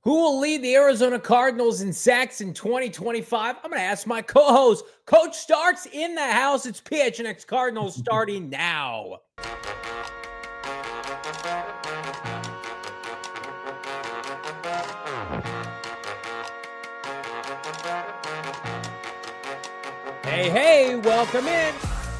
Who will lead the Arizona Cardinals in sacks in 2025? I'm going to ask my co-host, Coach Starks, in the house. It's PHNX Cardinals starting now. Hey, welcome in.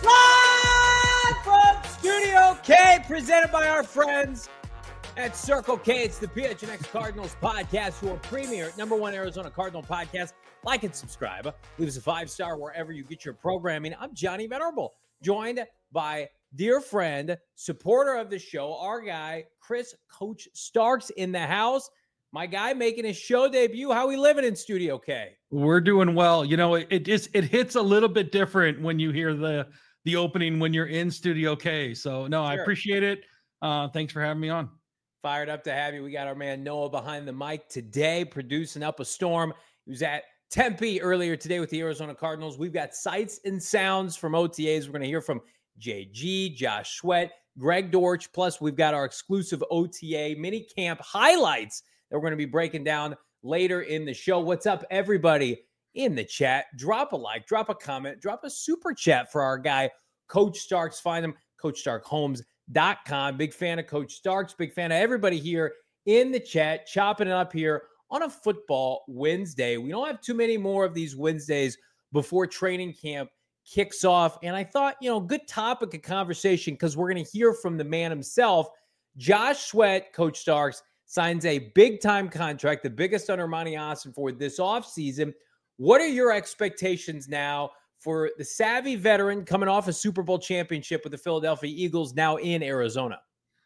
Live from Studio K, presented by our friends at Circle K. It's the PHNX Cardinals podcast, your premier #1 Arizona Cardinal podcast. Like and subscribe. Leave us a 5-star wherever you get your programming. I'm Johnny Venerable, joined by dear friend, supporter of the show, our guy, Coach Starks in the house. My guy making his show debut. How we living in Studio K? We're doing well. You know, it hits a little bit different when you hear the opening when you're in Studio K. So no, sure. I appreciate it. Thanks for having me on. Fired up to have you. We got our man Noah behind the mic today, producing up a storm. He was at Tempe earlier today with the Arizona Cardinals. We've got sights and sounds from OTAs. We're going to hear from JG, Josh Sweat, Greg Dortch. Plus, we've got our exclusive OTA mini camp highlights that we're going to be breaking down later in the show. What's up, everybody in the chat? Drop a like, drop a comment, drop a super chat for our guy, Coach Starks. Find him, CoachStarkHomes.com. Big fan of Coach Starks. Big fan of everybody here in the chat, chopping it up here on a football Wednesday. We don't have too many more of these Wednesdays before training camp kicks off. And I thought, good topic of conversation because we're going to hear from the man himself. Josh Sweat, Coach Starks, signs a big-time contract, the biggest under Monty Austin for this offseason. What are your expectations now for the savvy veteran coming off a Super Bowl championship with the Philadelphia Eagles now in Arizona?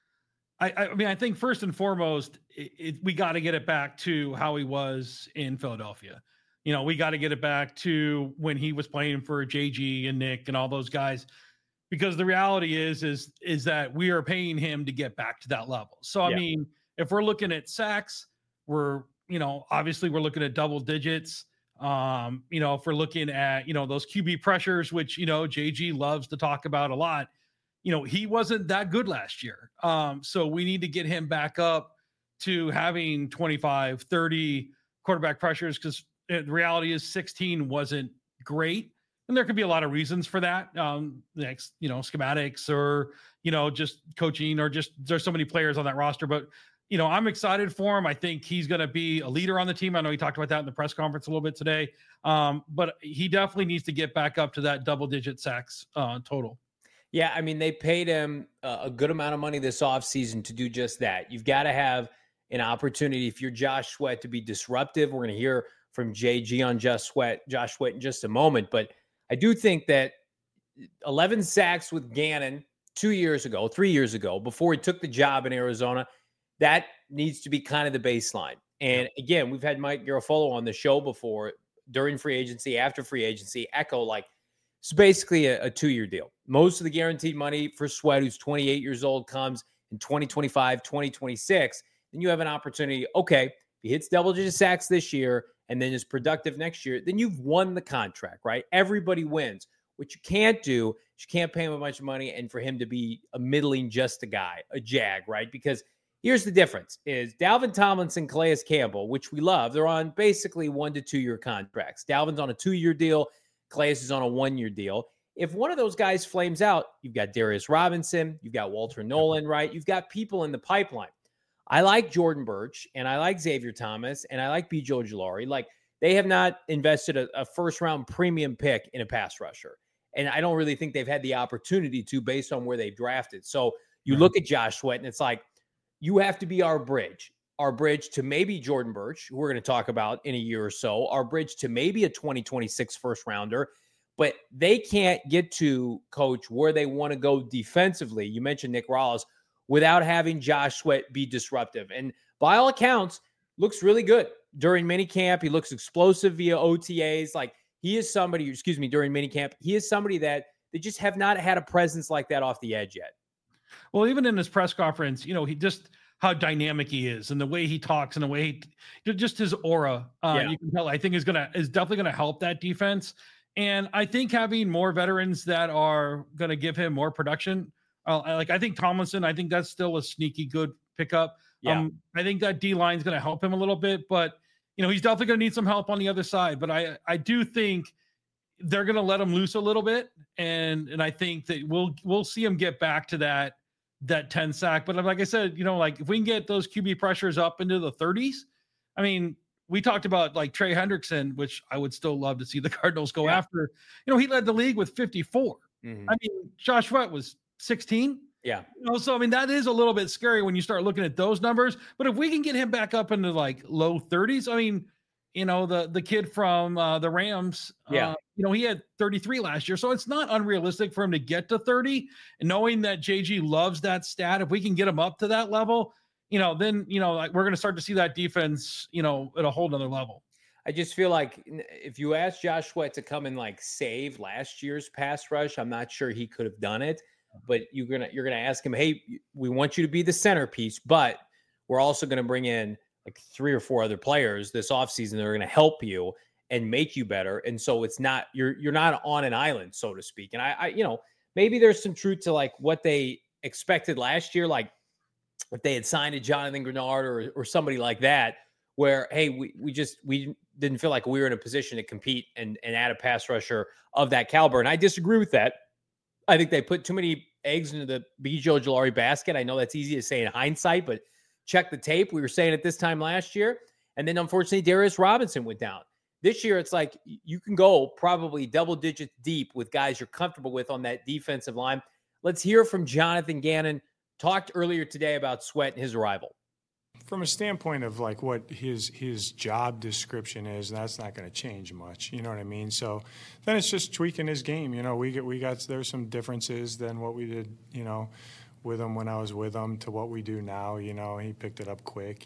I mean, I think first and foremost, we got to get it back to how he was in Philadelphia. We got to get it back to when he was playing for JG and Nick and all those guys, because the reality is that we are paying him to get back to that level. So, I mean, if we're looking at sacks, obviously we're looking at double digits. If we're looking at, those QB pressures, which, JG loves to talk about a lot, he wasn't that good last year. So we need to get him back up to having 25, 30 quarterback pressures, because the reality is 16 wasn't great. And there could be a lot of reasons for that. Schematics or, just coaching, or just there's so many players on that roster. But, I'm excited for him. I think he's going to be a leader on the team. I know he talked about that in the press conference a little bit today. But he definitely needs to get back up to that double-digit sacks total. Yeah, I mean, they paid him a good amount of money this offseason to do just that. You've got to have an opportunity, if you're Josh Sweat, to be disruptive. We're going to hear from JG on Josh Sweat in just a moment. But I do think that 11 sacks with Gannon 3 years ago, before he took the job in Arizona, that needs to be kind of the baseline. And again, we've had Mike Garafolo on the show before, during free agency, after free agency, echo it's basically a 2-year deal. Most of the guaranteed money for Sweat, who's 28 years old, comes in 2025, 2026. Then you have an opportunity. Okay, if he hits double-digit sacks this year and then is productive next year, then you've won the contract, right? Everybody wins. What you can't do is you can't pay him a bunch of money and for him to be a middling just a guy, a jag, right? Because here's the difference is Dalvin Tomlinson, Calais Campbell, which we love, they're on basically 1 to 2 year contracts. Dalvin's on a 2-year deal. Calais is on a 1-year deal. If one of those guys flames out, you've got Darius Robinson, you've got Walter Nolan, right? You've got people in the pipeline. I like Jordan Birch, and I like Xavier Thomas, and I like B.J. Ojulari. They have not invested a first-round premium pick in a pass rusher. And I don't really think they've had the opportunity to based on where they've drafted. So you look at Josh Sweat, and it's like, you have to be our bridge to maybe Jordan Birch, who we're going to talk about in a year or so, our bridge to maybe a 2026 first rounder, but they can't get to, Coach, where they want to go defensively. You mentioned Nick Rallis, without having Josh Sweat be disruptive. And by all accounts, looks really good during minicamp. He looks explosive via OTAs. He is somebody, during minicamp, he is somebody that they just have not had a presence like that off the edge yet. Well, even in his press conference, he just how dynamic he is and the way he talks and the way just his aura, you can tell, I think is definitely going to help that defense. And I think having more veterans that are going to give him more production, I think Tomlinson, I think that's still a sneaky good pickup. Yeah. I think that D line is going to help him a little bit, but he's definitely going to need some help on the other side. But I do think they're going to let him loose a little bit, and I think that we'll see him get back to that 10 sack. But like I said, like if we can get those QB pressures up into the 30s, I mean, we talked about like Trey Hendrickson, which I would still love to see the Cardinals go after. He led the league with 54. Mm-hmm. I mean, Josh Sweat was 16. Yeah. So I mean, that is a little bit scary when you start looking at those numbers. But if we can get him back up into like low 30s, I mean, the kid from the Rams, he had 33 last year. So it's not unrealistic for him to get to 30. And knowing that JG loves that stat, if we can get him up to that level, then, like we're going to start to see that defense, at a whole nother level. I just feel like if you ask Josh Sweat to come and like save last year's pass rush, I'm not sure he could have done it. But you're gonna ask him, hey, we want you to be the centerpiece, but we're also going to bring in like 3 or 4 other players this offseason that are going to help you and make you better. And so it's not you're not on an island, so to speak. And I maybe there's some truth to like what they expected last year, like if they had signed a Jonathan Grenard or somebody like that, where, hey, we didn't feel like we were in a position to compete and add a pass rusher of that caliber. And I disagree with that. I think they put too many eggs into the B.J. Ojulari basket. I know that's easy to say in hindsight, but check the tape. We were saying it this time last year. And then unfortunately, Darius Robinson went down. This year, it's like you can go probably double digits deep with guys you're comfortable with on that defensive line. Let's hear from Jonathan Gannon. Talked earlier today about Sweat and his arrival. From a standpoint of like what his job description is, that's not going to change much. You know what I mean? So then it's just tweaking his game. We got there's some differences than what we did, with him when I was with him to what we do now. He picked it up quick,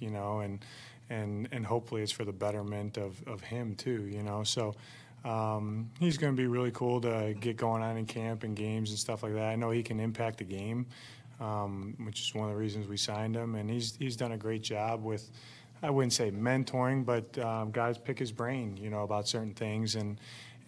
and hopefully it's for the betterment of him too. So he's going to be really cool to get going on in camp and games and stuff like that. I know he can impact the game. Which is one of the reasons we signed him, and he's done a great job with, I wouldn't say mentoring, but guys pick his brain, about certain things, and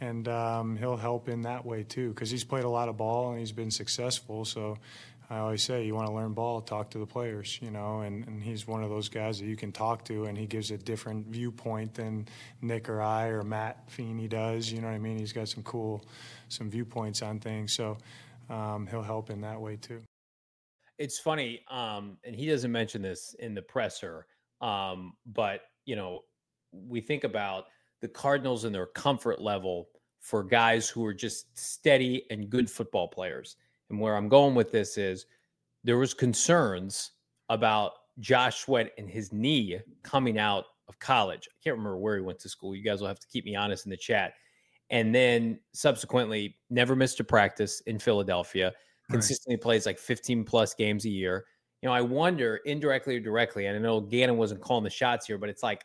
he'll help in that way too, because he's played a lot of ball and he's been successful. So I always say, you want to learn ball, talk to the players, and he's one of those guys that you can talk to, and he gives a different viewpoint than Nick or I or Matt Feeney does. You know what I mean? He's got some viewpoints on things, so he'll help in that way too. It's funny, and he doesn't mention this in the presser, but, we think about the Cardinals and their comfort level for guys who are just steady and good football players. And where I'm going with this is there was concerns about Josh Sweat and his knee coming out of college. I can't remember where he went to school. You guys will have to keep me honest in the chat. And then subsequently never missed a practice in Philadelphia. Consistently plays like 15 plus games a year. I wonder indirectly or directly, and I know Gannon wasn't calling the shots here, but it's like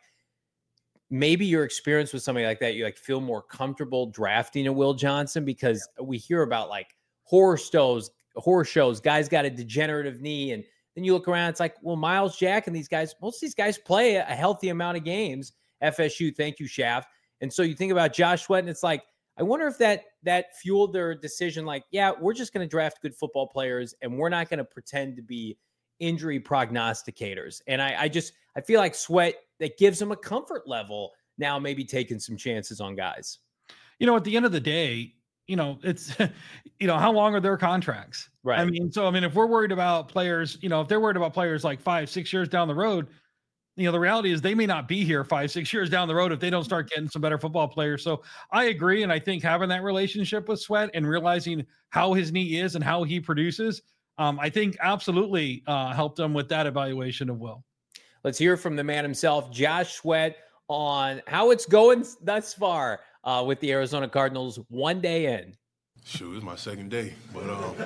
maybe your experience with somebody like that, you like feel more comfortable drafting a Will Johnson, because we hear about like horror shows, guys got a degenerative knee. And then you look around, it's like, well, Miles Jack and most of these guys play a healthy amount of games. FSU, thank you, Shaft. And so you think about Josh Sweat, and it's like, I wonder if that fueled their decision, like, yeah, we're just going to draft good football players and we're not going to pretend to be injury prognosticators. And I feel like Sweat, that gives him a comfort level now, maybe taking some chances on guys. At the end of the day, it's, how long are their contracts? Right. If we're worried about players, if they're worried about players like 5-6 years down the road, the reality is they may not be here 5-6 years down the road if they don't start getting some better football players. So I agree. And I think having that relationship with Sweat and realizing how his knee is and how he produces, I think absolutely helped him with that evaluation of Will. Let's hear from the man himself, Josh Sweat, on how it's going thus far with the Arizona Cardinals one day in. Shoot, it's my second day. But,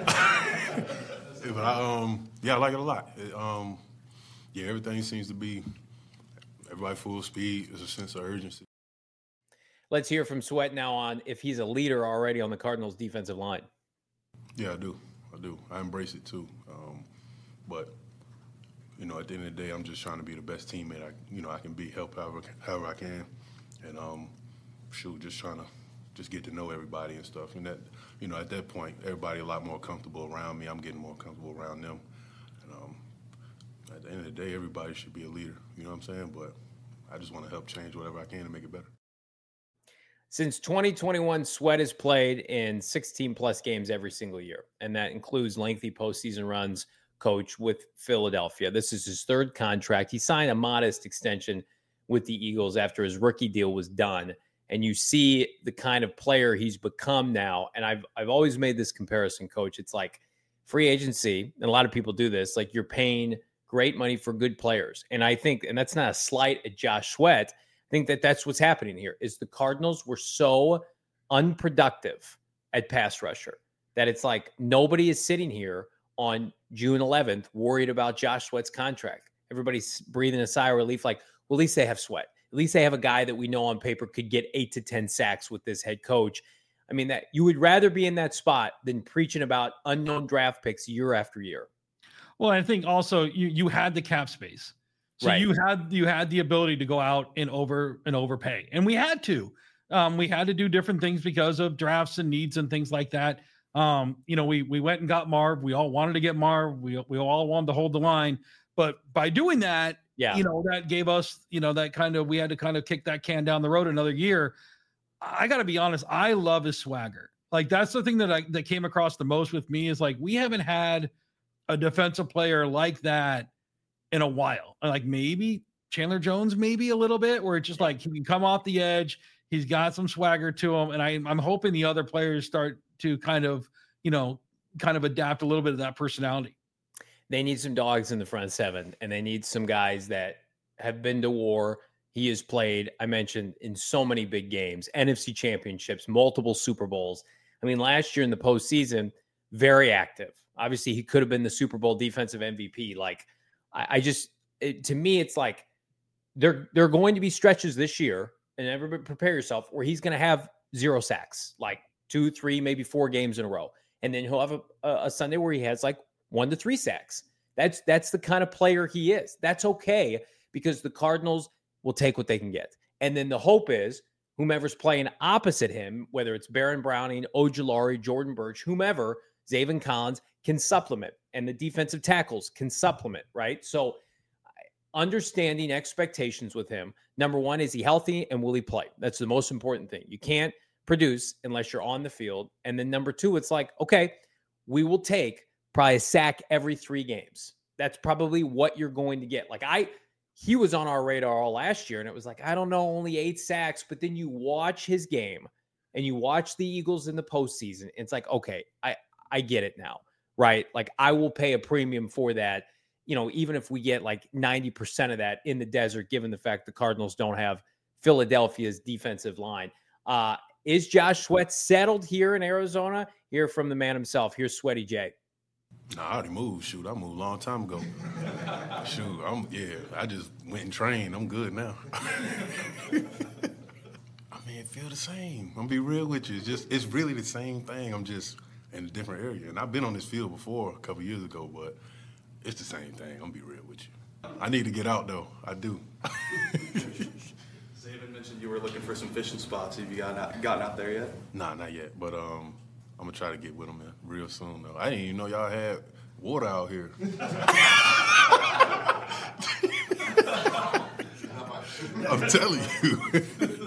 I like it a lot. Everything seems to be everybody full speed. There's a sense of urgency. Let's hear from Sweat now on if he's a leader already on the Cardinals defensive line. Yeah, I do. I embrace it too. But at the end of the day, I'm just trying to be the best teammate I can be, help however I can, and just trying to just get to know everybody and stuff. And that at that point, everybody a lot more comfortable around me. I'm getting more comfortable around them. at the end of the day, everybody should be a leader. You know what I'm saying? But I just want to help change whatever I can to make it better. Since 2021, Sweat has played in 16-plus games every single year, and that includes lengthy postseason runs, coach, with Philadelphia. This is his third contract. He signed a modest extension with the Eagles after his rookie deal was done, and you see the kind of player he's become now. And I've always made this comparison, Coach. It's like free agency, and a lot of people do this, like you're paying great money for good players. And I think, and that's not a slight at Josh Sweat, I think that that's what's happening here is the Cardinals were so unproductive at pass rusher that it's like nobody is sitting here on June 11th worried about Josh Sweat's contract. Everybody's breathing a sigh of relief like, well, at least they have Sweat. At least they have a guy that we know on paper could get 8 to 10 sacks with this head coach. I mean, that you would rather be in that spot than preaching about unknown draft picks year after year. Well, I think also you had the cap space. So right. you had the ability to go out and overpay, and we had to do different things because of drafts and needs and things like that. We went and got Marv. We all wanted to get Marv. We all wanted to hold the line, but by doing that, that gave us, we had to kind of kick that can down the road another year. I got to be honest. I love his swagger. Like that's the thing that came across the most with me is like, we haven't had a defensive player like that in a while. Like maybe Chandler Jones, maybe a little bit, where it's just like he can come off the edge. He's got some swagger to him. And I'm hoping the other players start to kind of adapt a little bit of that personality. They need some dogs in the front seven, and they need some guys that have been to war. He has played, I mentioned, in so many big games, NFC championships, multiple Super Bowls. I mean, last year in the postseason, very active. Obviously, he could have been the Super Bowl defensive MVP. Like, to me, it's like there are going to be stretches this year, and everybody prepare yourself, where he's going to have 0 sacks, like 2, 3, maybe 4 games in a row. And then he'll have a Sunday where he has like 1 to 3 sacks. That's the kind of player he is. That's okay because the Cardinals will take what they can get. And then the hope is whomever's playing opposite him, whether it's Baron Browning, Ojulari, Jordan Birch, whomever, Zaven Collins can supplement, and the defensive tackles can supplement, right? So understanding expectations with him. Number one, is he healthy and will he play? That's the most important thing. You can't produce unless you're on the field. And then number two, it's like, okay, we will take probably a sack every 3 games. That's probably what you're going to get. Like he was on our radar all last year, and it was like, I don't know, only 8 sacks. But then you watch his game and you watch the Eagles in the postseason. It's like, okay, I get it now, right? Like I will pay a premium for that, even if we get like 90% of that in the desert, given the fact the Cardinals don't have Philadelphia's defensive line. Is Josh Sweat settled here in Arizona? Hear from the man himself. Here's Sweaty J. Nah, I already moved. Shoot, I moved a long time ago. Shoot, I just went and trained. I'm good now. I mean, it feel the same. I'm gonna be real with you. It's really the same thing. I'm just in a different area. And I've been on this field before a couple years ago, but it's the same thing. I'm gonna be real with you. I need to get out though. I do. Zaven mentioned you were looking for some fishing spots. Have you gotten out there yet? Nah, not yet. But I'm gonna try to get with them real soon though. I didn't even know y'all had water out here. I'm telling you.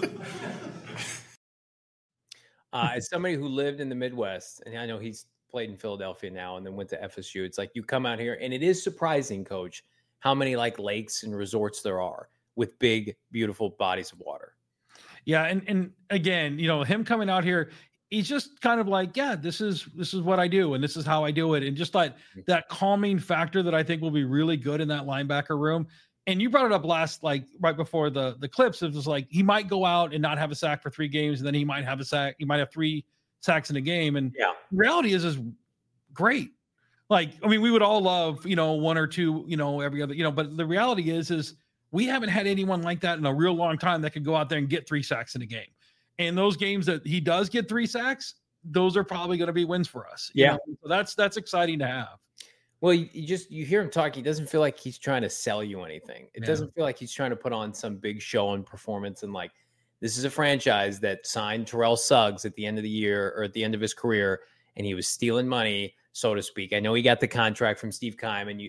As somebody who lived in the Midwest, and I know he's played in Philadelphia now and then went to FSU, it's like you come out here, and it is surprising, Coach, how many like lakes and resorts there are with big, beautiful bodies of water. Yeah, and again, him coming out here, he's just kind of like, yeah, this is what I do, and this is how I do it, and just like that calming factor that I think will be really good in that linebacker room. And you brought it up right before the clips. It was like he might go out and not have a sack for 3 games, and then he might have a sack. He might have 3 sacks in a game. And the reality is great. Like, I mean, we would all love, 1 or 2, every other, but the reality is we haven't had anyone like that in a real long time that could go out there and get 3 sacks in a game. And those games that he does get 3 sacks, those are probably going to be wins for us. Yeah. So that's exciting to have. Well, you hear him talk. He doesn't feel like he's trying to sell you anything. It doesn't feel like he's trying to put on some big show and performance. And like, this is a franchise that signed Terrell Suggs at the end of the year or at the end of his career, and he was stealing money, so to speak. I know he got the contract from Steve Keim, and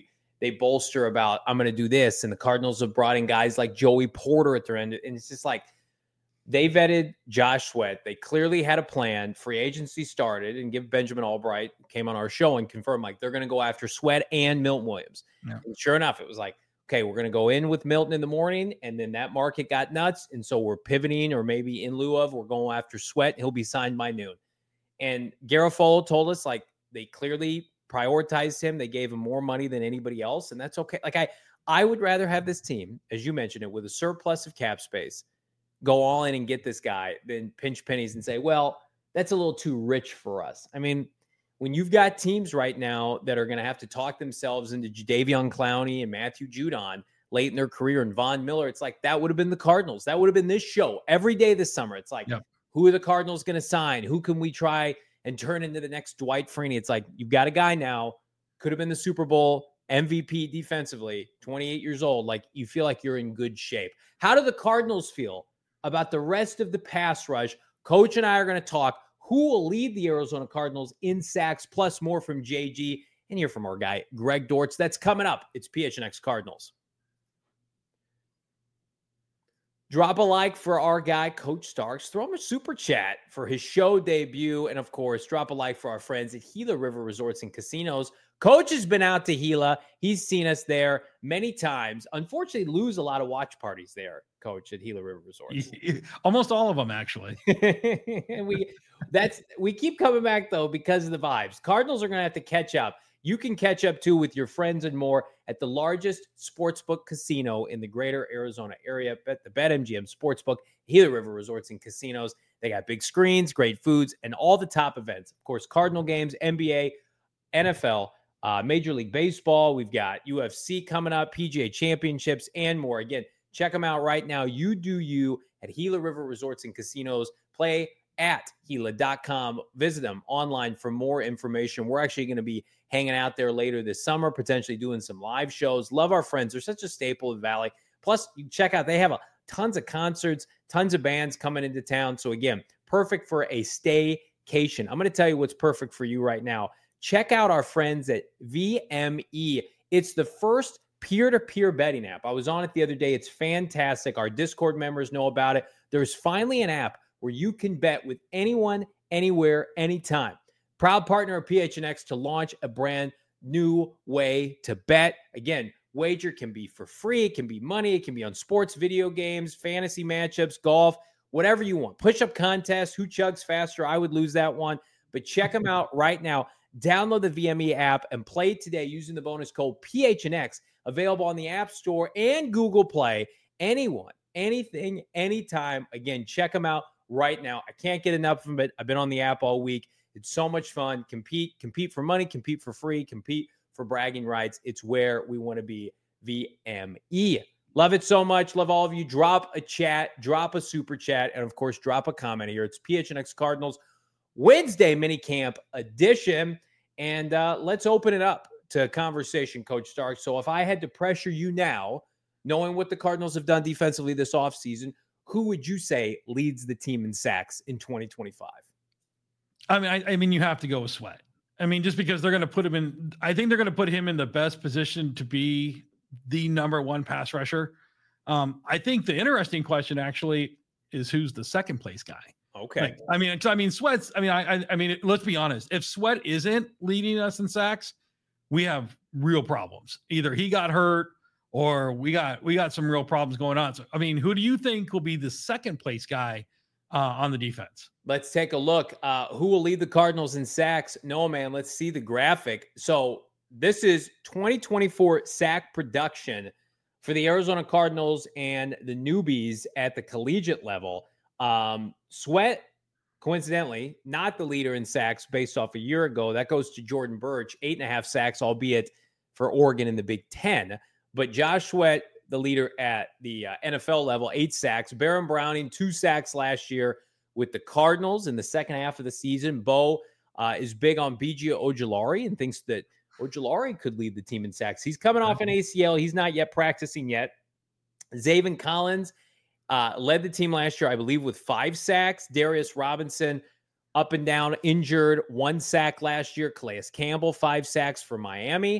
they bolster about, I'm going to do this. And the Cardinals have brought in guys like Joey Porter at their end. And it's just like, they vetted Josh Sweat. They clearly had a plan. Free agency started, and give Benjamin Albright came on our show and confirmed like they're going to go after Sweat and Milton Williams. Yeah. And sure enough, it was like, okay, we're going to go in with Milton in the morning, and then that market got nuts. And so we're pivoting, or maybe in lieu of, we're going after Sweat. He'll be signed by noon. And Garofalo told us like they clearly prioritized him. They gave him more money than anybody else. And that's okay. Like I would rather have this team, as you mentioned it, with a surplus of cap space, go all in and get this guy than pinch pennies and say, well, that's a little too rich for us. I mean, when you've got teams right now that are going to have to talk themselves into Jadeveon Clowney and Matthew Judon late in their career and Von Miller, it's like that would have been the Cardinals. That would have been this show every day this summer. It's like, Who are the Cardinals going to sign? Who can we try and turn into the next Dwight Freeney? It's like, you've got a guy now, could have been the Super Bowl MVP defensively, 28 years old. Like, you feel like you're in good shape. How do the Cardinals feel about the rest of the pass rush? Coach and I are going to talk who will lead the Arizona Cardinals in sacks, plus more from JG, and hear from our guy, Greg Dortz. That's coming up. It's PHNX Cardinals. Drop a like for our guy, Coach Starks. Throw him a super chat for his show debut. And, of course, drop a like for our friends at Gila River Resorts and Casinos. Coach has been out to Gila. He's seen us there many times. Unfortunately, lose a lot of watch parties there, Coach, at Gila River Resorts. Almost all of them, actually. We keep coming back, though, because of the vibes. Cardinals are going to have to catch up. You can catch up, too, with your friends and more at the largest sportsbook casino in the greater Arizona area, the BetMGM Sportsbook, Gila River Resorts and Casinos. They got big screens, great foods, and all the top events. Of course, Cardinal games, NBA, NFL, Major League Baseball. We've got UFC coming up, PGA Championships, and more. Again, check them out right now. You do you at Gila River Resorts and Casinos. Play at Gila.com. Visit them online for more information. We're actually going to be hanging out there later this summer, potentially doing some live shows. Love our friends. They're such a staple of the Valley. Plus, you check out, they have tons of concerts, tons of bands coming into town. So again, perfect for a staycation. I'm going to tell you what's perfect for you right now. Check out our friends at VME. It's the first peer-to-peer betting app. I was on it the other day. It's fantastic. Our Discord members know about it. There's finally an app where you can bet with anyone, anywhere, anytime. Proud partner of PHNX to launch a brand new way to bet. Again, wager can be for free. It can be money. It can be on sports, video games, fantasy matchups, golf, whatever you want. Push-up contest, who chugs faster? I would lose that one. But check them out right now. Download the VME app and play today using the bonus code PHNX. Available on the App Store and Google Play. Anyone, anything, anytime. Again, check them out right now. I can't get enough of it. I've been on the app all week. It's so much fun. Compete for money, compete for free, compete for bragging rights. It's where we want to be. VME. Love it so much. Love all of you. Drop a chat, drop a super chat, and of course, drop a comment here. It's PHNX Cardinals Wednesday minicamp edition. And let's open it up to conversation, Coach Stark. So if I had to pressure you now, knowing what the Cardinals have done defensively this offseason, who would you say leads the team in sacks in 2025? I mean, you have to go with Sweat. I mean, just because they're going to put him in, I think they're going to put him in the best position to be the number one pass rusher. I think the interesting question actually is who's the second place guy. Okay. Sweat's, let's be honest. If Sweat isn't leading us in sacks, we have real problems. Either he got hurt or we got some real problems going on. So, I mean, who do you think will be the second place guy on the defense? Let's take a look. Who will lead the Cardinals in sacks? No, man. Let's see the graphic. So this is 2024 sack production for the Arizona Cardinals and the newbies at the collegiate level. Sweat, coincidentally, not the leader in sacks based off a year ago. That goes to Jordan Burch, 8.5 sacks, albeit for Oregon in the Big Ten. But Josh Sweat, the leader at the NFL level, 8 sacks. Baron Browning, 2 sacks last year with the Cardinals in the second half of the season. Bo is big on B.J. Ojulari and thinks that Ojulari could lead the team in sacks. He's coming off an ACL. He's not yet practicing yet. Zaven Collins led the team last year, I believe, with 5 sacks. Darius Robinson, up and down, injured, 1 sack last year. Calais Campbell, 5 sacks for Miami.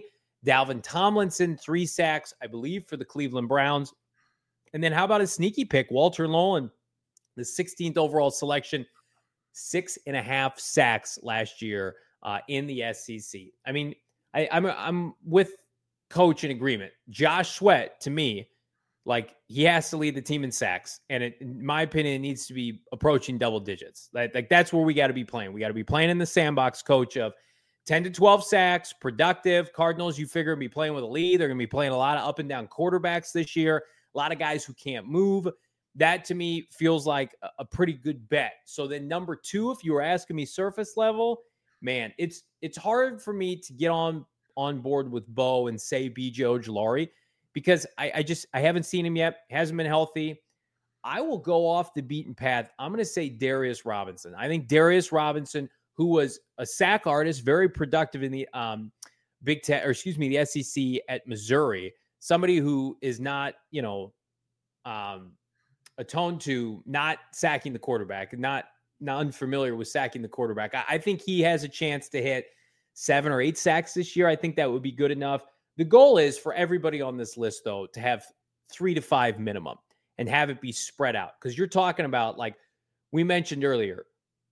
Dalvin Tomlinson, 3 sacks, I believe, for the Cleveland Browns. And then how about a sneaky pick, Walter Nolan, the 16th overall selection, 6.5 sacks last year in the SEC. I mean, I'm with Coach in agreement. Josh Sweat, to me, like, he has to lead the team in sacks, and in my opinion, it needs to be approaching double digits. Like that's where we got to be playing. We got to be playing in the sandbox, Coach, of 10 to 12 sacks, productive. Cardinals, you figure, be playing with a lead. They're going to be playing a lot of up and down quarterbacks this year. A lot of guys who can't move. That to me feels like a pretty good bet. So then number 2, if you were asking me surface level, man, it's hard for me to get on board with Bo and say BJ Ojulari, because I haven't seen him yet. Hasn't been healthy. I will go off the beaten path. I'm going to say Darius Robinson. I think Darius Robinson, who was a sack artist, very productive in the the SEC at Missouri, somebody who is not, attuned to not sacking the quarterback, not unfamiliar with sacking the quarterback. I think he has a chance to hit 7 or 8 sacks this year. I think that would be good enough. The goal is for everybody on this list, though, to have 3 to 5 minimum and have it be spread out. Because you're talking about, like we mentioned earlier,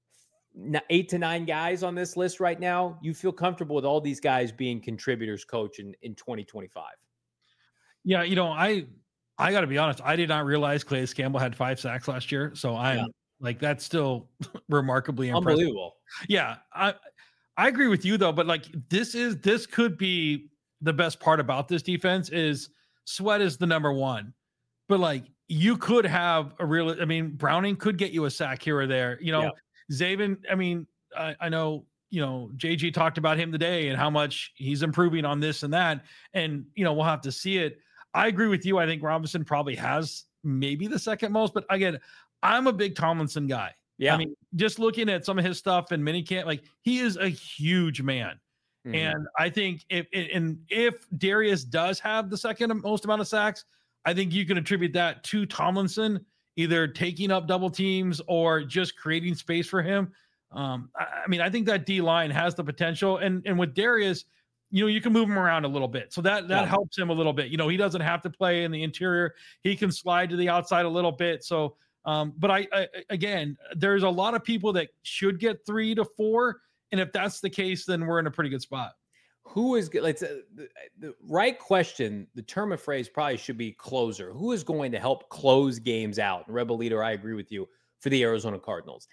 8 to 9 guys on this list right now. You feel comfortable with all these guys being contributors, Coach, in 2025? Yeah, I got to be honest. I did not realize Calais Campbell had 5 sacks last year. So I'm like, that's still remarkably impressive. Unbelievable. Yeah. I agree with you though, but like this could be the best part about this defense is Sweat is the number 1, but like you could have Browning could get you a sack here or there, Zaven. I know, JG talked about him today and how much he's improving on this and that. And, we'll have to see it. I agree with you. I think Robinson probably has maybe the second most, but again, I'm a big Tomlinson guy. Yeah. Just looking at some of his stuff in minicamp, like he is a huge man. Mm-hmm. And I think if Darius does have the second most amount of sacks, I think you can attribute that to Tomlinson, either taking up double teams or just creating space for him. I think that D line has the potential, and with Darius, you can move him around a little bit. So that helps him a little bit. He doesn't have to play in the interior. He can slide to the outside a little bit. So, but I again, there's a lot of people that should get 3 to 4. And if that's the case, then we're in a pretty good spot. Who is good? Like the right question, the term of phrase probably should be closer. Who is going to help close games out? And Rebel Leader, I agree with you, for the Arizona Cardinals.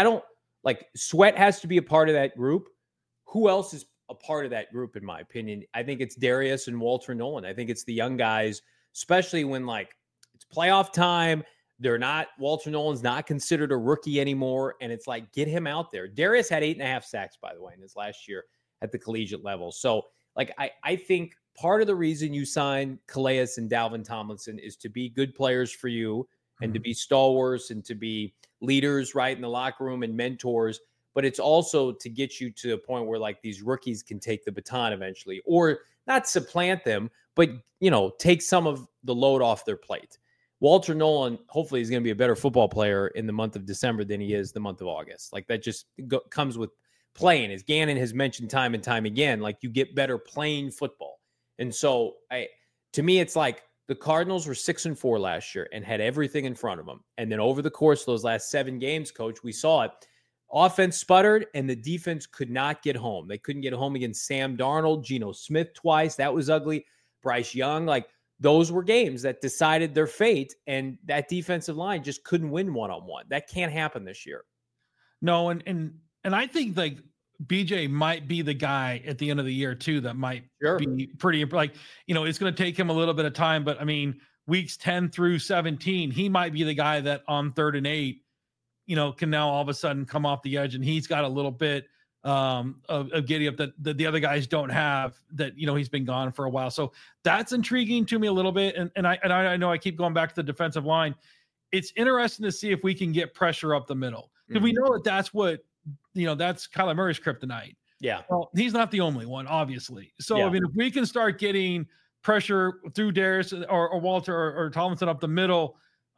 Sweat has to be a part of that group. Who else is a part of that group, in my opinion? I think it's Darius and Walter Nolan. I think it's the young guys, especially when it's playoff time. Walter Nolan's not considered a rookie anymore. And it's like, get him out there. Darius had 8.5 sacks, by the way, in his last year at the collegiate level. So I think part of the reason you signed Calais and Dalvin Tomlinson is to be good players for you and to be stalwarts and to be leaders right in the locker room and mentors. But it's also to get you to a point where these rookies can take the baton eventually, or not supplant them, but, take some of the load off their plate. Walter Nolan, hopefully, is going to be a better football player in the month of December than he is the month of August. That just comes with playing. As Gannon has mentioned time and time again, you get better playing football. And so to me, it's the Cardinals were 6-4 last year and had everything in front of them. And then over the course of those last 7 games, Coach, we saw it. Offense sputtered and the defense could not get home. They couldn't get home against Sam Darnold, Geno Smith twice. That was ugly. Bryce Young, those were games that decided their fate, and that defensive line just couldn't win one-on-one. That can't happen this year. No, and I think BJ might be the guy at the end of the year too that might be pretty it's going to take him a little bit of time, but weeks 10 through 17, he might be the guy that on 3rd and 8, can now all of a sudden come off the edge, and he's got a little bit of giddy up that the other guys don't have, that he's been gone for a while. So that's intriguing to me a little bit. And I know I keep going back to the defensive line. It's interesting to see if we can get pressure up the middle, because we know that's what that's Kyler Murray's kryptonite. Yeah, well, he's not the only one, obviously. So if we can start getting pressure through Darius or Walter or Tomlinson up the middle,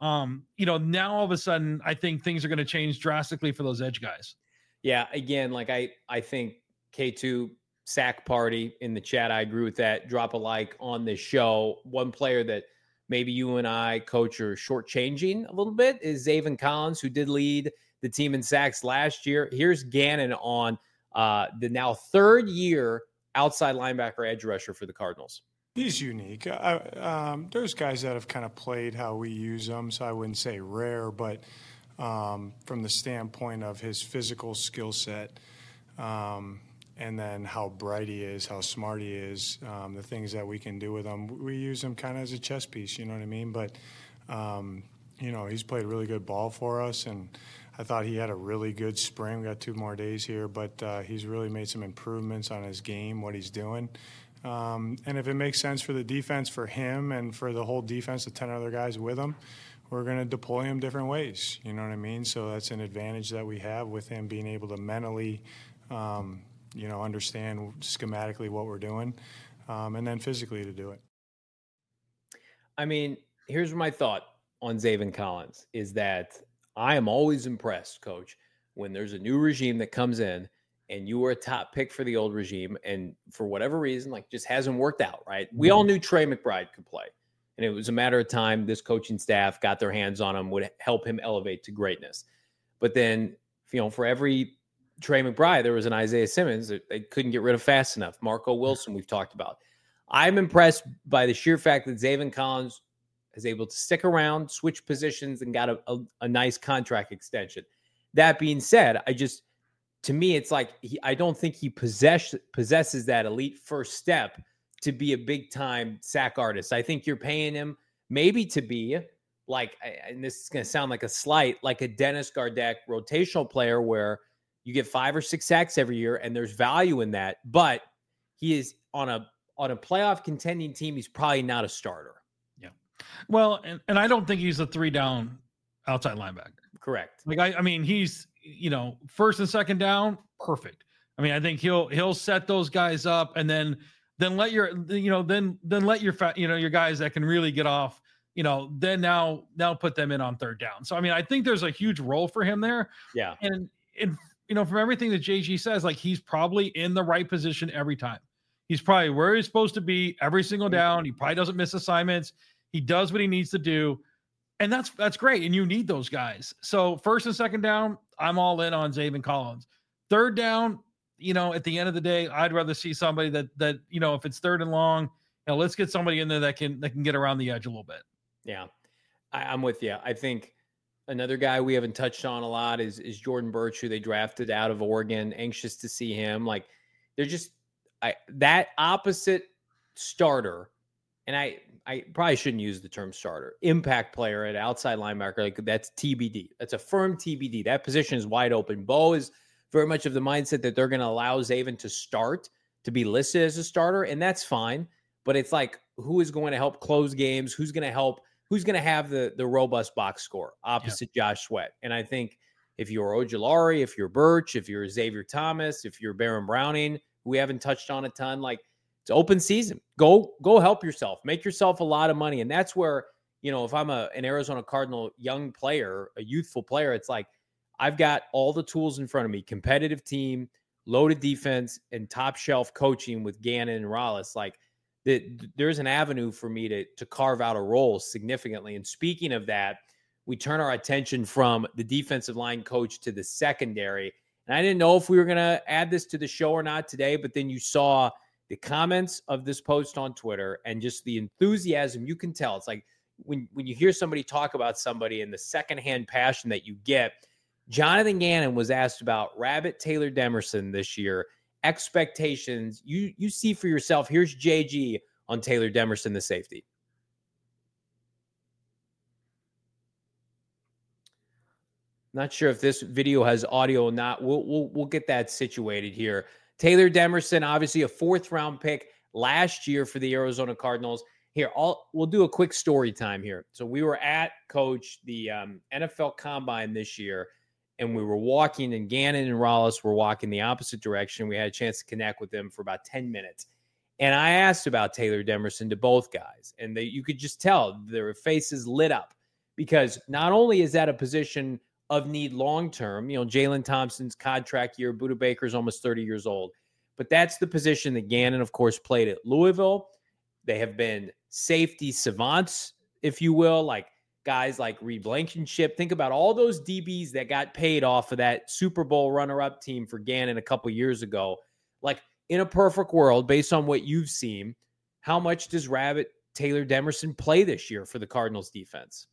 now all of a sudden I think things are going to change drastically for those edge guys. Yeah, again, I think K2, sack party in the chat. I agree with that. Drop a like on this show. One player that maybe you and I, Coach, are shortchanging a little bit is Zaven Collins, who did lead the team in sacks last year. Here's Gannon on the now third year outside linebacker edge rusher for the Cardinals. He's unique. There's guys that have kind of played how we use them, so I wouldn't say rare, but from the standpoint of his physical skill set, and then how bright he is, how smart he is, the things that we can do with him, we use him kind of as a chess piece, you know what I mean? But, he's played really good ball for us, and I thought he had a really good spring. We got 2 more days here, but he's really made some improvements on his game, what he's doing. And if it makes sense for the defense, for him and for the whole defense, the 10 other guys with him, we're going to deploy him different ways. You know what I mean? So that's an advantage that we have with him being able to mentally, understand schematically what we're doing, and then physically to do it. I mean, here's my thought on Zaven Collins is that I am always impressed, Coach, when there's a new regime that comes in and you were a top pick for the old regime and for whatever reason, just hasn't worked out, right? We all knew Trey McBride could play, and it was a matter of time this coaching staff got their hands on him, would help him elevate to greatness. But then, for every Trey McBride, there was an Isaiah Simmons that they couldn't get rid of fast enough. Marco Wilson, we've talked about. I'm impressed by the sheer fact that Zaven Collins is able to stick around, switch positions, and got a nice contract extension. That being said, to me, it's I don't think he possesses that elite first step to be a big-time sack artist. I think you're paying him maybe to be and this is going to sound like a slight, like a Dennis Gardeck rotational player where you get 5 or 6 sacks every year, and there's value in that. But he is on a playoff contending team. He's probably not a starter. Yeah. Well, and I don't think he's a 3-down outside linebacker. Correct. I mean, he's, first and second down, perfect. I mean, I think he'll set those guys up, and then let your, then let your your guys that can really get off, then now put them in on third down. So, I mean, I think there's a huge role for him there. Yeah. And from everything that JG says, he's probably in the right position every time. He's probably where he's supposed to be every single down. He probably doesn't miss assignments. He does what he needs to do. And that's great. And you need those guys. So first and second down, I'm all in on Zaven Collins. Third down, at the end of the day, I'd rather see somebody that if it's third and long, let's get somebody in there that can get around the edge a little bit. Yeah, I'm with you. I think another guy we haven't touched on a lot is Jordan Birch, who they drafted out of Oregon. Anxious to see him. They're just that opposite starter. And I probably shouldn't use the term starter. Impact player at outside linebacker, that's TBD. That's a firm TBD. That position is wide open. Bo is very much of the mindset that they're going to allow Zaven to start, to be listed as a starter, and that's fine. But it's who is going to help close games? Who's going to have the robust box score opposite Josh Sweat? And I think if you're Ojulari, if you're Birch, if you're Xavier Thomas, if you're Baron Browning, who we haven't touched on a ton, it's open season. Go help yourself. Make yourself a lot of money. And that's where, if I'm an Arizona Cardinal young player, a youthful player, it's I've got all the tools in front of me, competitive team, loaded defense, and top shelf coaching with Gannon and Rollis. There's an avenue for me to carve out a role significantly. And speaking of that, we turn our attention from the defensive line coach to the secondary. And I didn't know if we were going to add this to the show or not today, but then you saw the comments of this post on Twitter and just the enthusiasm you can tell. It's when you hear somebody talk about somebody and the secondhand passion that you get. Jonathan Gannon was asked about Rabbit Taylor Demerson this year. Expectations you see for yourself. Here's JG on Taylor Demerson, the safety. Not sure if this video has audio or not. We'll get that situated here. Taylor Demerson, obviously a 4th-round pick last year for the Arizona Cardinals. Here, we'll do a quick story time here. So we were at, Coach, the NFL Combine this year, and we were walking, and Gannon and Rollis were walking the opposite direction. We had a chance to connect with them for about 10 minutes. And I asked about Taylor Demerson to both guys, and you could just tell their faces lit up because not only is that a position of need long-term, Jalen Thompson's contract year, Budda Baker's almost 30 years old, but that's the position that Gannon, of course, played at Louisville. They have been safety savants, if you will, like guys like Reed Blankenship. Think about all those DBs that got paid off of that Super Bowl runner-up team for Gannon a couple years ago. Like, in a perfect world, based on what you've seen, how much does Rabbit Taylor Demerson play this year for the Cardinals defense?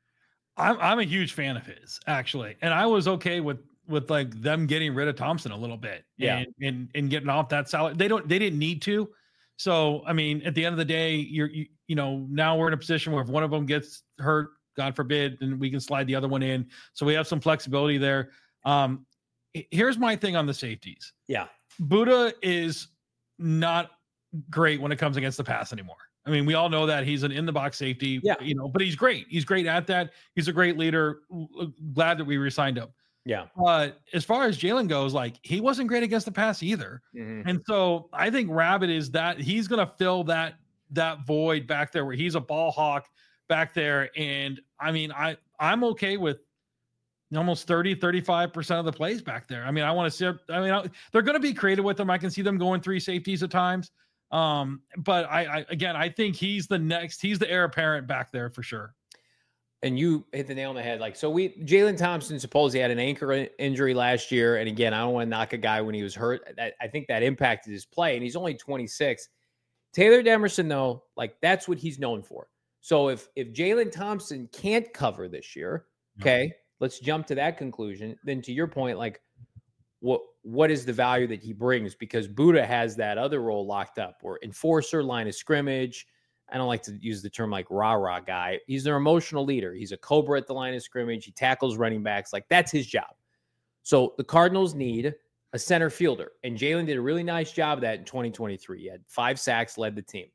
I'm a huge fan of his, actually. And I was okay with like them getting rid of Thompson a little bit and getting off that salary. They didn't need to. So, I mean, at the end of the day, you know, now we're in a position where if one of them gets hurt, God forbid, then we can slide the other one in. So we have some flexibility there. Here's my thing on the safeties. Yeah. Buddha is not great when it comes against the pass anymore. I mean, we all know that he's an in-the-box safety, you know, but he's great. He's great at that. He's a great leader. Glad that we re-signed him. Yeah. But as far as Jalen goes, like, he wasn't great against the pass either. Mm-hmm. And so I think Rabbit is that he's going to fill that void back there where he's a ball hawk back there. And I mean, I'm okay with almost 35% of the plays back there. I mean, I want to see, they're going to be creative with them. I can see them going 3 safeties at times. But I think he's the heir apparent back there for sure. And you hit the nail on the head. Like, so Jalen Thompson supposedly had an ankle injury last year. And again, I don't want to knock a guy when he was hurt. I think that impacted his play, and he's only 26. Taylor Demerson, though, like, that's what he's known for. So if Jalen Thompson can't cover this year, okay, let's jump to that conclusion. Then to your point, like, what is the value that he brings? Because Buddha has that other role locked up, or enforcer, line of scrimmage. I don't like to use the term like rah-rah guy. He's their emotional leader. He's a cobra at the line of scrimmage. He tackles running backs. Like, that's his job. So the Cardinals need a center fielder. And Jalen did a really nice job of that in 2023. He had 5 sacks, led the team.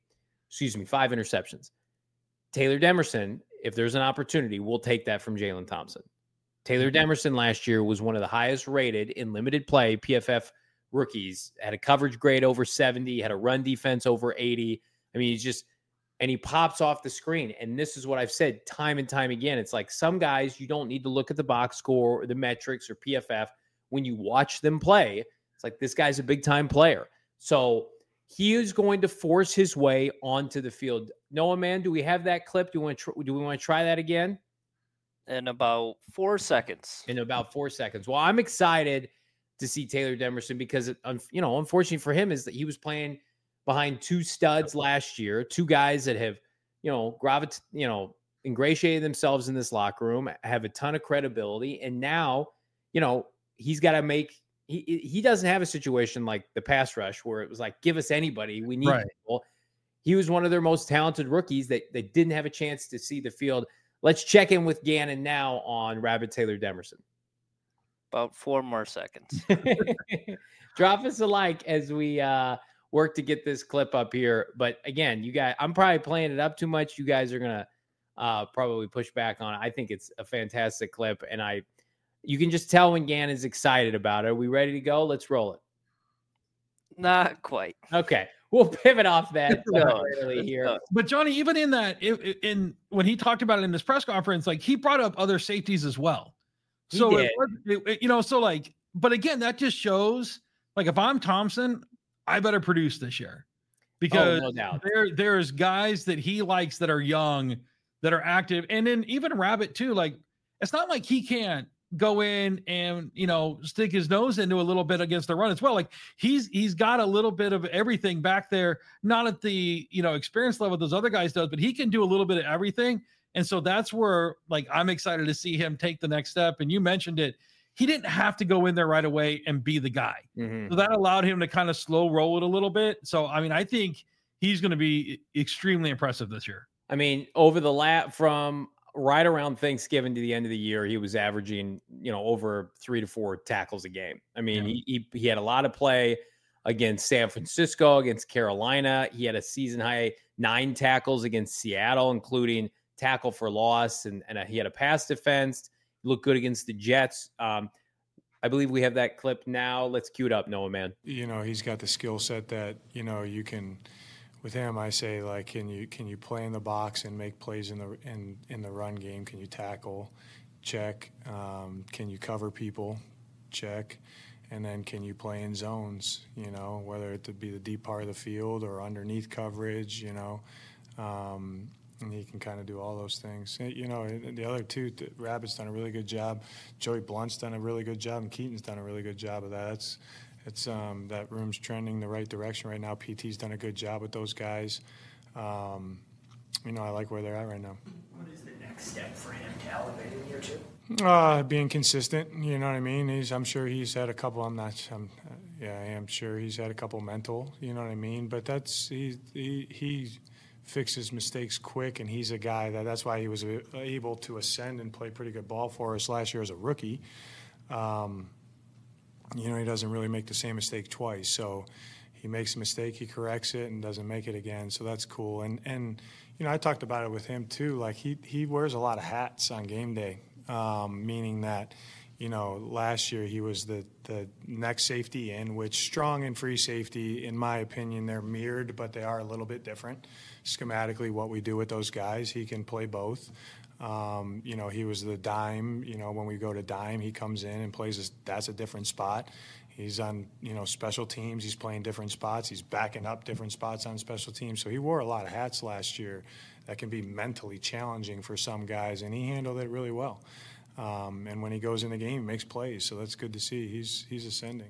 5 interceptions. Taylor Demerson, if there's an opportunity, we'll take that from Jalen Thompson. Taylor Demerson last year was one of the highest rated in limited play PFF rookies. Had a coverage grade over 70, had a run defense over 80. I mean, and he pops off the screen. And this is what I've said time and time again. It's like, some guys, you don't need to look at the box score or the metrics or PFF. When you watch them play, it's like, this guy's a big time player. So he is going to force his way onto the field. Noah, man, do we have that clip? Do we want to try that again? In about 4 seconds. Well, I'm excited to see Taylor Demerson because, unfortunately for him, is that he was playing behind 2 studs last year, 2 guys that have, ingratiated themselves in this locker room, have a ton of credibility. And now, he's got to make, he doesn't have a situation like the pass rush where it was like, give us anybody. We need people. He was one of their most talented rookies that they didn't have a chance to see the field. Let's check in with Gannon now on Rabbit Taylor Demerson. About 4 more seconds. Drop us a like as we work to get this clip up here. But again, you guys, I'm probably playing it up too much. You guys are going to probably push back on it. I think it's a fantastic clip, and you can just tell when Gannon's excited about it. Are we ready to go? Let's roll it. Not quite. Okay. We'll pivot off that here. But Johnny, even in that, when he talked about it in his press conference, like, he brought up other safeties as well. But again, that just shows, like, if I'm Thompson, I better produce this year, because no doubt. there's guys that he likes that are young, that are active. And then even Rabbit too, like, it's not like he can't go in and, stick his nose into a little bit against the run as well. Like, he's got a little bit of everything back there, not at the, experience level those other guys does, but he can do a little bit of everything. And so that's where, like, I'm excited to see him take the next step. And you mentioned it. He didn't have to go in there right away and be the guy. Mm-hmm. So that allowed him to kind of slow roll it a little bit. So, I mean, I think he's going to be extremely impressive this year. I mean, over the from right around Thanksgiving to the end of the year, he was averaging, over 3 to 4 tackles a game. I mean, he had a lot of play against San Francisco, against Carolina. He had a season high 9 tackles against Seattle, including tackle for loss, and he had a pass defense. He looked good against the Jets. I believe we have that clip now. Let's cue it up, Noah, man. He's got the skill set that, you can. With him, I say, like, can you play in the box and make plays in the run game? Can you tackle? Check. Can you cover people? Check. And then can you play in zones, you know, whether it to be the deep part of the field or underneath coverage, you know. And he can kind of do all those things. You know, the other two, Rabbit's done a really good job. Joey Blunt's done a really good job, and Keaton's done a really good job of that. That room's trending the right direction right now. PT's done a good job with those guys. You know, I like where they're at right now. What is the next step for him to elevate in year 2? Being consistent, you know what I mean? I'm sure he's had a couple, I am sure he's had a couple mental, you know what I mean? But he fixes mistakes quick, and he's a guy that's why he was able to ascend and play pretty good ball for us last year as a rookie. You know, he doesn't really make the same mistake twice. So he makes a mistake, he corrects it, and doesn't make it again. So that's cool. And you know, I talked about it with him too. Like he wears a lot of hats on game day, meaning that, you know, last year he was the next safety in, which strong and free safety, in my opinion, they're mirrored, but they are a little bit different. Schematically, what we do with those guys, he can play both. You know, he was the dime. You know, when we go to dime, he comes in and plays. That's a different spot. He's on, you know, special teams. He's playing different spots. He's backing up different spots on special teams. So he wore a lot of hats last year that can be mentally challenging for some guys, and he handled it really well. And when he goes in the game, he makes plays. So that's good to see. He's ascending.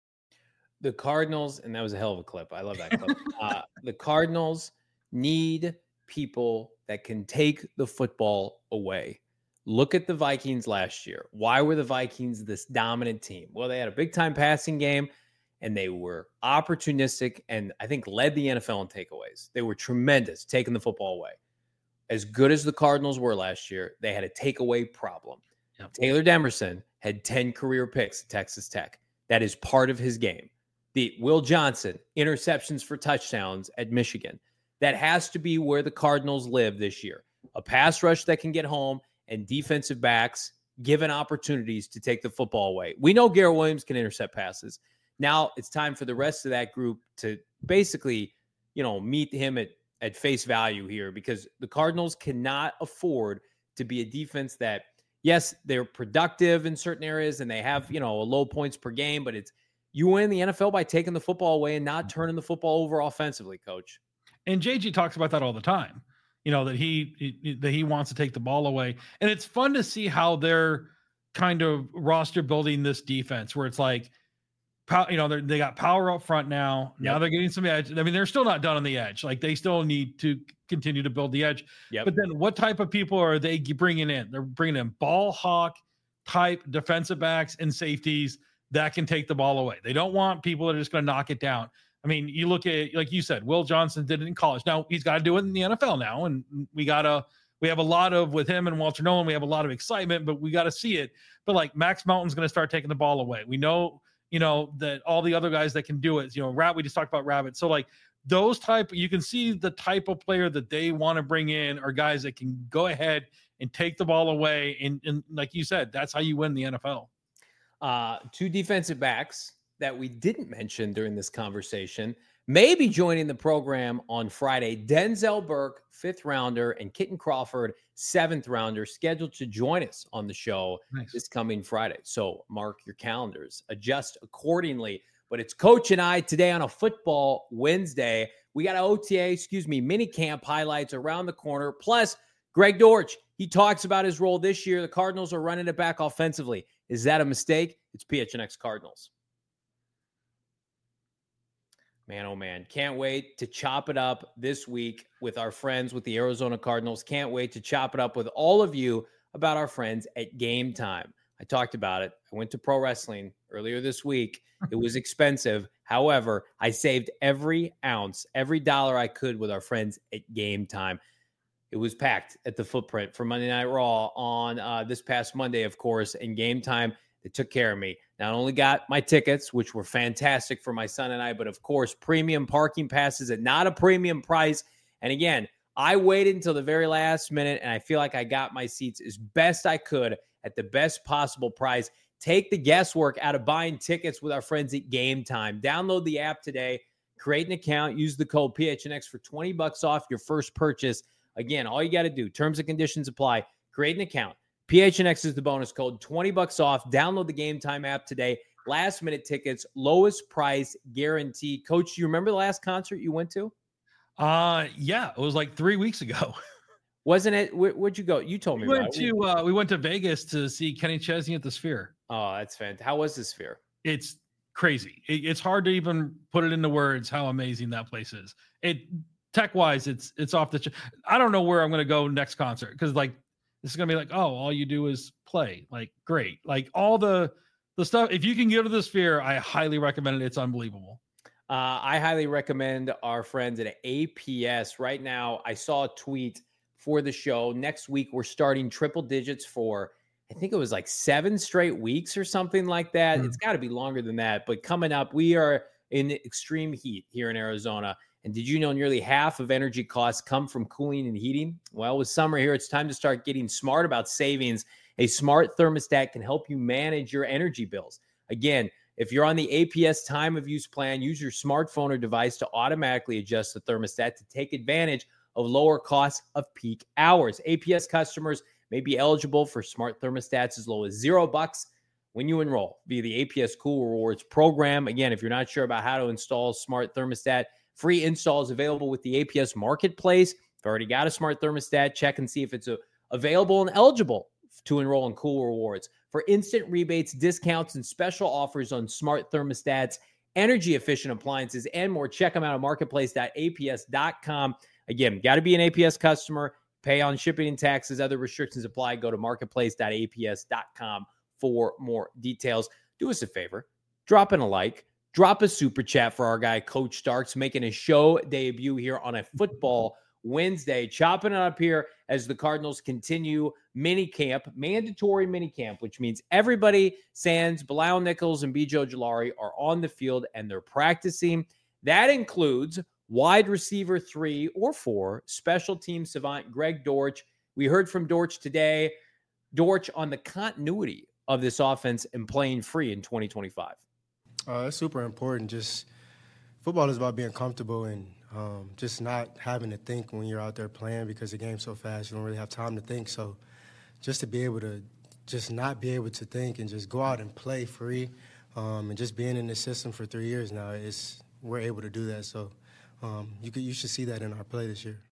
The Cardinals, and that was a hell of a clip. I love that clip. The Cardinals need people that can take the football away. Look at the Vikings last year. Why were the Vikings this dominant team? Well, they had a big-time passing game, and they were opportunistic and I think led the NFL in takeaways. They were tremendous taking the football away. As good as the Cardinals were last year, they had a takeaway problem. Yep. Taylor Demerson had 10 career picks at Texas Tech. That is part of his game. The Will Johnson, interceptions for touchdowns at Michigan. That has to be where the Cardinals live this year. A pass rush that can get home and defensive backs given opportunities to take the football away. We know Garrett Williams can intercept passes. Now it's time for the rest of that group to basically, you know, meet him at face value here, because the Cardinals cannot afford to be a defense that, yes, they're productive in certain areas and they have, you know, a low points per game, but it's, you win the NFL by taking the football away and not turning the football over offensively, Coach. And JG talks about that all the time, you know, that he wants to take the ball away. And it's fun to see how they're kind of roster building this defense where it's like, you know, they got power up front now. Yep. Now they're getting some edge. I mean, they're still not done on the edge. Like, they still need to continue to build the edge. Yep. But then what type of people are they bringing in? They're bringing in ball hawk type defensive backs and safeties that can take the ball away. They don't want people that are just going to knock it down. I mean, you look at, like you said, Will Johnson did it in college. Now he's got to do it in the NFL now. And we have a lot of, with him and Walter Nolan, we have a lot of excitement, but we got to see it. But like Max Melton's going to start taking the ball away. We know, you know, that all the other guys that can do it, you know, we just talked about Rabbit. So like those type, you can see the type of player that they want to bring in are guys that can go ahead and take the ball away. And like you said, that's how you win the NFL. Two defensive backs that we didn't mention during this conversation may be joining the program on Friday. Denzel Burke, 5th rounder, and Kitten Crawford, 7th rounder, scheduled to join us on the show this coming Friday. So mark your calendars, adjust accordingly. But it's Coach and I today on a Football Wednesday. We got mini camp highlights around the corner. Plus, Greg Dortch, he talks about his role this year. The Cardinals are running it back offensively. Is that a mistake? It's PHNX Cardinals. Man, oh man, can't wait to chop it up this week with our friends with the Arizona Cardinals. Can't wait to chop it up with all of you about our friends at Game Time. I talked about it. I went to pro wrestling earlier this week. It was expensive. However, I saved every ounce, every dollar I could with our friends at Game Time. It was packed at the Footprint for Monday Night Raw on this past Monday, of course, and Game Time. They took care of me. Not only got my tickets, which were fantastic for my son and I, but of course, premium parking passes at not a premium price. And again, I waited until the very last minute, and I feel like I got my seats as best I could at the best possible price. Take the guesswork out of buying tickets with our friends at Game Time. Download the app today, create an account, use the code PHNX for $20 off your first purchase. Again, all you got to do, terms and conditions apply. Create an account. PHNX is the bonus code, $20 off. Download the Game Time app today. last minute tickets, lowest price guarantee. Coach, do you remember the last concert you went to? Yeah, it was like 3 weeks ago. Wasn't it? Where'd you go? You told me about it. We went to Vegas to see Kenny Chesney at the Sphere. Oh, that's fantastic. How was the Sphere? It's crazy. It's hard to even put it into words how amazing that place is. Tech wise, it's off the. I don't know where I'm going to go next concert because like this is going to be like, oh, all you do is play. Like great, like all the stuff. If you can go to the Sphere, I highly recommend it. It's unbelievable. I highly recommend our friends at APS. Right now, I saw a tweet for the show. Next week, we're starting triple digits for, I think it was like 7 straight weeks or something like that. It's got to be longer than that. But coming up, we are in extreme heat here in Arizona. And did you know nearly half of energy costs come from cooling and heating? Well, with summer here, it's time to start getting smart about savings. A smart thermostat can help you manage your energy bills. Again, if you're on the APS time of use plan, use your smartphone or device to automatically adjust the thermostat to take advantage of lower costs of peak hours. APS customers may be eligible for smart thermostats as low as $0 when you enroll via the APS Cool Rewards program. Again, if you're not sure about how to install smart thermostat, free install is available with the APS Marketplace. If you've already got a smart thermostat, check and see if it's available and eligible to enroll in Cool Rewards. For instant rebates, discounts, and special offers on smart thermostats, energy-efficient appliances, and more, check them out at marketplace.aps.com. Again, got to be an APS customer, pay on shipping and taxes. Other restrictions apply. Go to marketplace.aps.com for more details. Do us a favor, drop in a like, drop a super chat for our guy, Coach Starks, making a show debut here on a football Wednesday, chopping it up here as the Cardinals continue mandatory mini camp, which means everybody, sans Bilal Nichols and B.J. Ojulari, are on the field and they're practicing. That includes wide receiver 3 or 4, special team savant Greg Dortch. We heard from Dortch today. Dortch on the continuity of this offense and playing free in 2025. It's super important. Just football is about being comfortable and just not having to think when you're out there playing because the game's so fast. You don't really have time to think. So just to be able to just not be able to think and just go out and play free and just being in the system for 3 years now, we're able to do that. So you should see that in our play this year.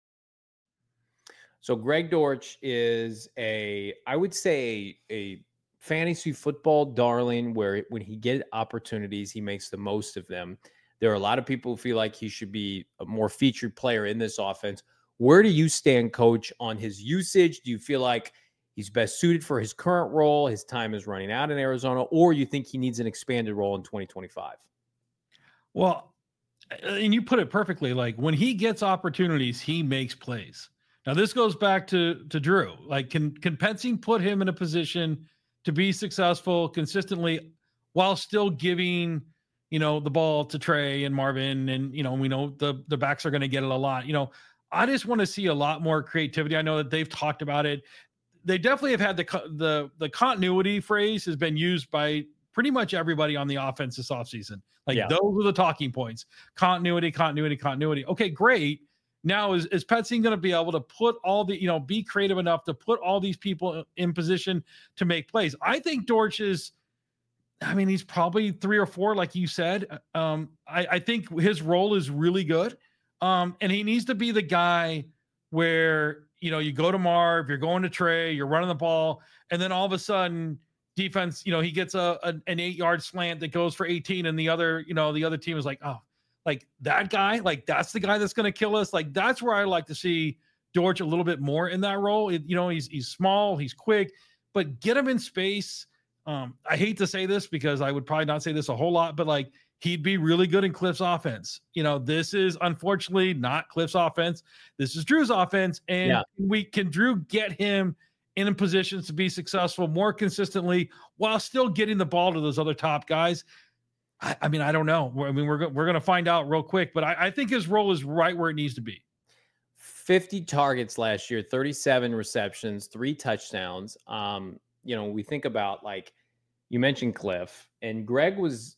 So Greg Dortch is I would say a fantasy football darling where when he gets opportunities, he makes the most of them. There are a lot of people who feel like he should be a more featured player in this offense. Where do you stand, Coach, on his usage? Do you feel like he's best suited for his current role, his time is running out in Arizona, or you think he needs an expanded role in 2025? Well, and you put it perfectly. Like when he gets opportunities, he makes plays. Now this goes back to Drew. Like can Pensing put him in a position to be successful consistently while still giving, the ball to Trey and Marvin, and, we know the backs are going to get it a lot. I just want to see a lot more creativity. I know that they've talked about it. They definitely have had the continuity phrase has been used by pretty much everybody on the offense this offseason. Those are the talking points. Continuity. Okay, great. Now is Pensing going to be able to put all the, be creative enough to put all these people in position to make plays? I think Dortch is, he's probably 3 or 4, like you said. I think his role is really good. And he needs to be the guy where, you go to Marv, you're going to Trey, you're running the ball, and then all of a sudden defense, he gets an 8-yard slant that goes for 18, and the other team is like, oh, like that guy, like that's the guy that's going to kill us. Like that's where I like to see Dortch a little bit more in that role. He's small, he's quick, but get him in space. I hate to say this because I would probably not say this a whole lot, but like he'd be really good in Cliff's offense. This is unfortunately not Cliff's offense. This is Drew's offense. And Drew get him in positions to be successful more consistently while still getting the ball to those other top guys. I don't know. We're going to find out real quick, but I think his role is right where it needs to be. 50 targets last year, 37 receptions, 3 touchdowns. We think about, like you mentioned Cliff, and Greg was,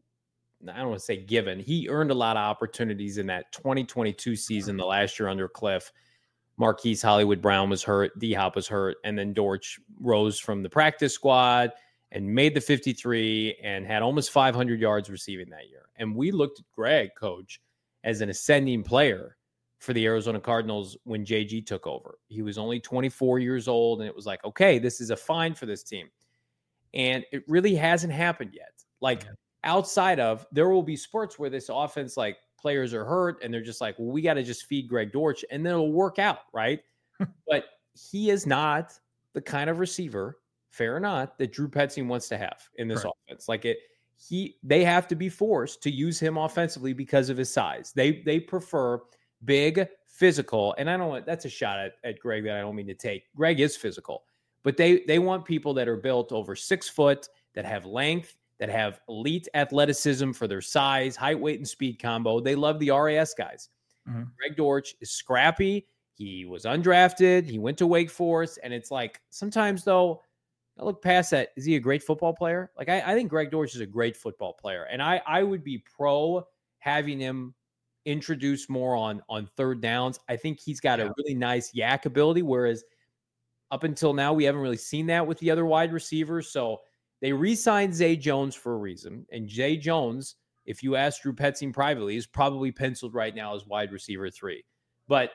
I don't want to say given, he earned a lot of opportunities in that 2022 season, the last year under Cliff. Marquise Hollywood Brown was hurt, D-Hop was hurt, and then Dortch rose from the practice squad and made the 53 and had almost 500 yards receiving that year. And we looked at Greg, coach, as an ascending player for the Arizona Cardinals when JG took over. He was only 24 years old, and it was like, okay, this is a find for this team. And it really hasn't happened yet. Like, outside of, there will be spurts where this offense, like, players are hurt, and they're just like, well, we got to just feed Greg Dortch, and then it'll work out, right? But he is not the kind of receiver, fair or not, that Drew Petzing wants to have in this offense. Like, they have to be forced to use him offensively because of his size. They prefer big, physical, and I don't want, that's a shot at Greg that I don't mean to take. Greg is physical, but they want people that are built over 6 foot, that have length, that have elite athleticism for their size, height, weight, and speed combo. They love the RAS guys. Greg Dortch is scrappy. He was undrafted. He went to Wake Forest, and it's like, sometimes though, I look past that. Is he a great football player? Like, I think Greg Dortch is a great football player, and I would be pro having him introduce more on third downs. I think he's got a really nice yak ability, whereas up until now, we haven't really seen that with the other wide receivers. So they re-signed Zay Jones for a reason, and Zay Jones, if you ask Drew Petzing privately, is probably penciled right now as wide receiver 3. But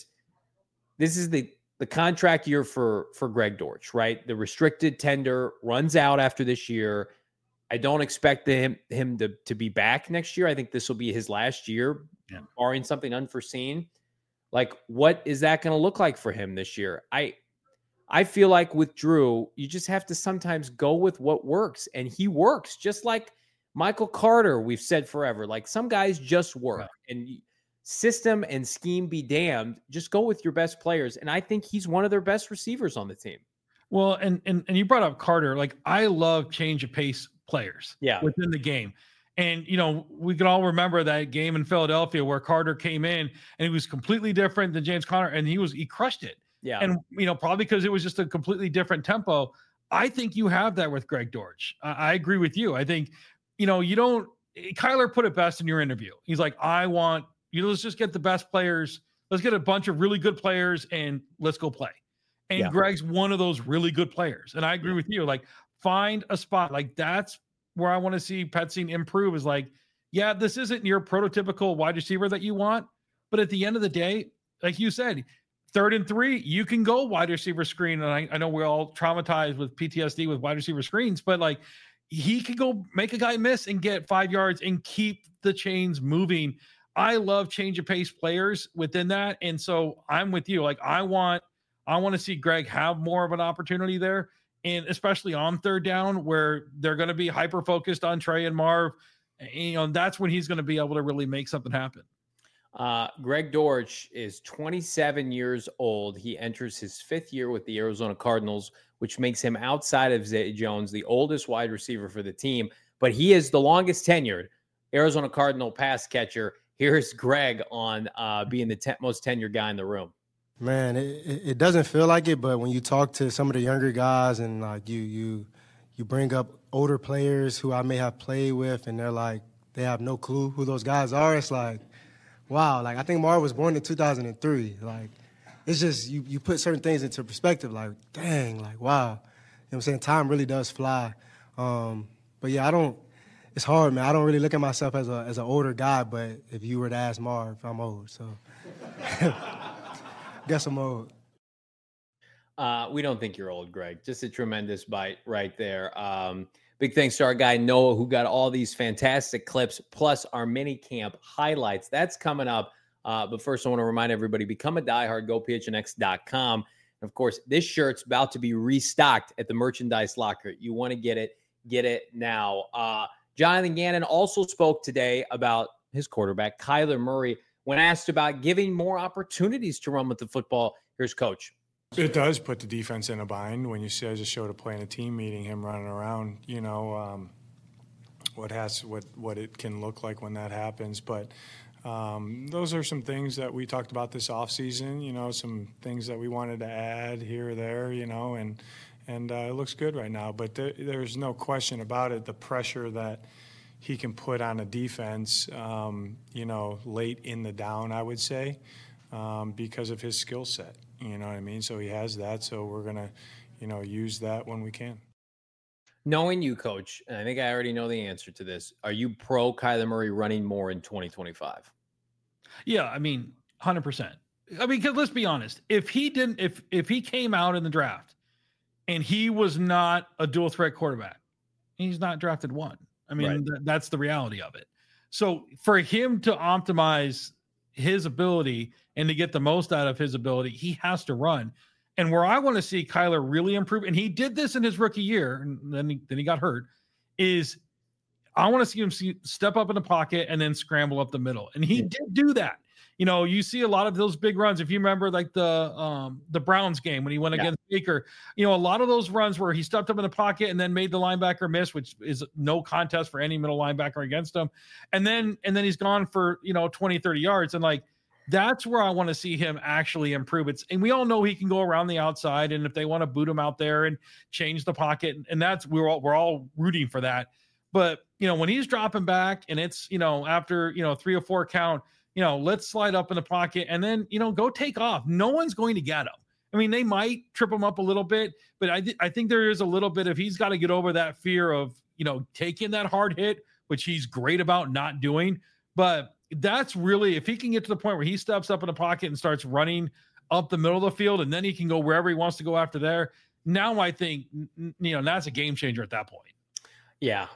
this is the contract year for Greg Dortch, right? The restricted tender runs out after this year. I don't expect him to be back next year. I think this will be his last year, barring something unforeseen. Like, what is that going to look like for him this year? I feel like with Drew, you just have to sometimes go with what works, and he works just like Michael Carter. We've said forever, like, some guys just work, and system and scheme be damned. Just go with your best players, and I think he's one of their best receivers on the team. Well, and you brought up Carter. Like, I love change of pace players within the game. And, we can all remember that game in Philadelphia where Carter came in and he was completely different than James Conner, and he crushed it. Yeah. And, probably because it was just a completely different tempo. I think you have that with Greg Dortch. I agree with you. I think, Kyler put it best in your interview. He's like, let's just get the best players. Let's get a bunch of really good players and let's go play. And Greg's one of those really good players. And I agree with you. Like, find a spot. Like, that's where I want to see Petzing improve, is like, this isn't your prototypical wide receiver that you want. But at the end of the day, like you said, 3rd and 3, you can go wide receiver screen. And I know we're all traumatized with PTSD with wide receiver screens, but like, he could go make a guy miss and get 5 yards and keep the chains moving. I love change of pace players within that. And so I'm with you. Like, I want to see Greg have more of an opportunity there. And especially on 3rd down, where they're going to be hyper-focused on Trey and Marv. And that's when he's going to be able to really make something happen. Greg Dortch is 27 years old. He enters his 5th year with the Arizona Cardinals, which makes him, outside of Zay Jones, the oldest wide receiver for the team. But he is the longest tenured Arizona Cardinal pass catcher. Here's Greg on being the most tenured guy in the room. Man, it doesn't feel like it, but when you talk to some of the younger guys and like you bring up older players who I may have played with, and they're like, they have no clue who those guys are. It's like, wow. Like, I think Marv was born in 2003. Like, it's just, you put certain things into perspective. Like, dang, like, wow. You know what I'm saying? Time really does fly. But yeah, it's hard, man. I don't really look at myself as an older guy, but if you were to ask Marv, I'm old, so. Guess I'm old. We don't think you're old, Greg. Just a tremendous bite right there. Big thanks to our guy Noah, who got all these fantastic clips, plus our mini camp highlights. That's coming up. But first, I want to remind everybody, become a diehard, gophnx.com. And of course, this shirt's about to be restocked at the merchandise locker. You want to get it now. Jonathan Gannon also spoke today about his quarterback, Kyler Murray. When asked about giving more opportunities to run with the football, here's Coach. It does put the defense in a bind when you see, I just showed a play in a team meeting, him running around, what it can look like when that happens. But those are some things that we talked about this offseason, some things that we wanted to add here or there, and it looks good right now. But there's no question about it, the pressure that he can put on a defense, late in the down, I would say, because of his skill set. You know what I mean? So he has that. So we're going to, use that when we can. Knowing you, Coach, and I think I already know the answer to this, are you pro Kyler Murray running more in 2025? Yeah, I mean, 100%. I mean, because let's be honest, if he came out in the draft and he was not a dual threat quarterback, he's not drafted one. I mean, that's the reality of it. So for him to optimize his ability and to get the most out of his ability, he has to run. And where I want to see Kyler really improve, and he did this in his rookie year, and then he got hurt, is I want to see him step up in the pocket and then scramble up the middle. And he did do that. You know, you see a lot of those big runs. If you remember, like the Browns game when he went against Baker, you know, a lot of those runs where he stepped up in the pocket and then made the linebacker miss, which is no contest for any middle linebacker against him. And then he's gone for, 20, 30 yards. And like, that's where I want to see him actually improve. And we all know he can go around the outside. And if they want to boot him out there and change the pocket, and we're all rooting for that. But, when he's dropping back and it's, after, 3 or 4 count, let's slide up in the pocket and then, go take off. No one's going to get him. I mean, they might trip him up a little bit, but I think there is a little bit of, he's got to get over that fear of, taking that hard hit, which he's great about not doing. But that's really, if he can get to the point where he steps up in the pocket and starts running up the middle of the field, and then he can go wherever he wants to go after there. Now I think, that's a game changer at that point. Yeah.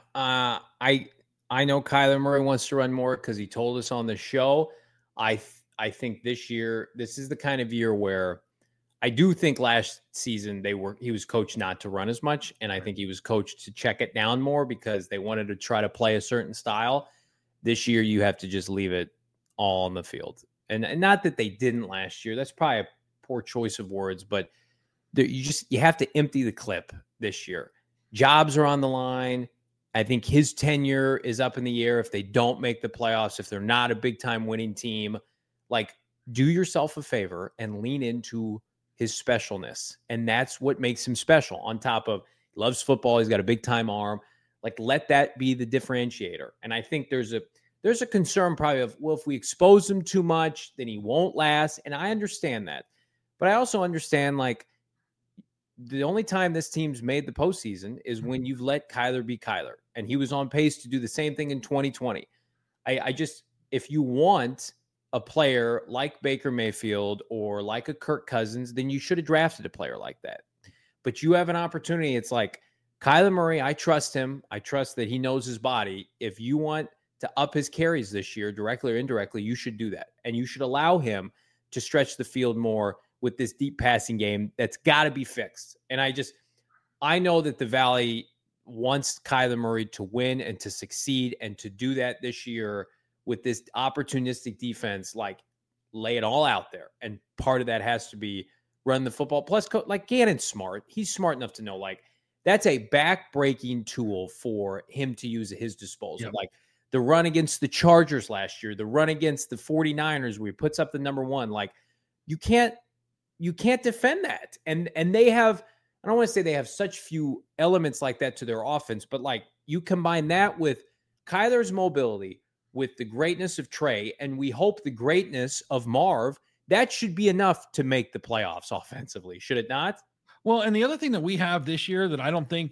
I know Kyler Murray wants to run more because he told us on the show. I think this year, this is the kind of year where I do think last season he was coached not to run as much. And I think he was coached to check it down more because they wanted to try to play a certain style. This year, you have to just leave it all on the field. And not that they didn't last year. That's probably a poor choice of words, but you have to empty the clip this year. Jobs are on the line. I think his tenure is up in the air if they don't make the playoffs, if they're not a big-time winning team. Like, do yourself a favor and lean into his specialness. And that's what makes him special. On top of, he loves football, he's got a big-time arm. Like, let that be the differentiator. And I think there's a concern probably of, well, if we expose him too much, then he won't last. And I understand that. But I also understand, like, the only time this team's made the postseason is when you've let Kyler be Kyler. And he was on pace to do the same thing in 2020. If you want a player like Baker Mayfield or like a Kirk Cousins, then you should have drafted a player like that. But you have an opportunity. It's like, Kyler Murray, I trust him. I trust that he knows his body. If you want to up his carries this year, directly or indirectly, you should do that. And you should allow him to stretch the field more with this deep passing game that's got to be fixed. And I know that the Valley wants Kyler Murray to win and to succeed, and to do that this year with this opportunistic defense, like, lay it all out there. And part of that has to be run the football. Plus, like, Gannon's smart. He's smart enough to know, like, that's a back-breaking tool for him to use at his disposal. Yep. Like the run against the Chargers last year, the run against the 49ers where he puts up the number 1. Like, you can't defend that. And they have, I don't want to say they have such few elements like that to their offense, but like, you combine that with Kyler's mobility, with the greatness of Trey, and we hope the greatness of Marv, that should be enough to make the playoffs offensively, should it not? Well, and the other thing that we have this year that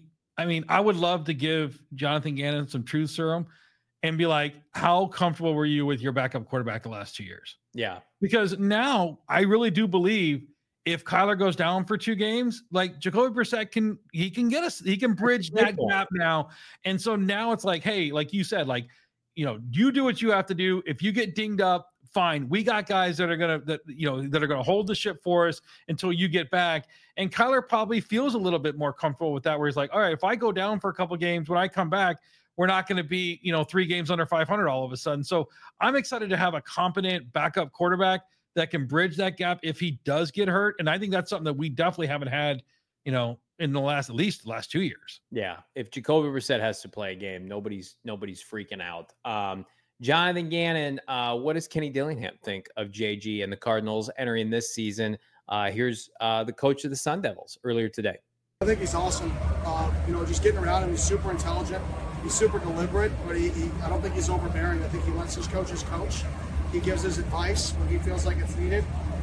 I would love to give Jonathan Gannon some truth serum and be like, how comfortable were you with your backup quarterback the last 2 years? Yeah. Because now I really do believe if Kyler goes down for 2 games, like Jacoby Brissett can bridge that gap now. And so now it's like, hey, like you said, like, you do what you have to do. If you get dinged up, fine. We got guys that are going to hold the ship for us until you get back. And Kyler probably feels a little bit more comfortable with that, where he's like, all right, if I go down for a couple games, when I come back, we're not going to be, 3 games under 500 all of a sudden. So I'm excited to have a competent backup quarterback that can bridge that gap if he does get hurt. And I think that's something that we definitely haven't had, in the last 2 years. Yeah. If Jacoby Brissett has to play a game, nobody's freaking out. Jonathan Gannon, what does Kenny Dillingham think of JG and the Cardinals entering this season? Here's the coach of the Sun Devils earlier today. I think he's awesome. Just getting around him, he's super intelligent. He's super deliberate, but I don't think he's overbearing. I think he lets his coaches coach. He gives his advice when he feels like it's needed,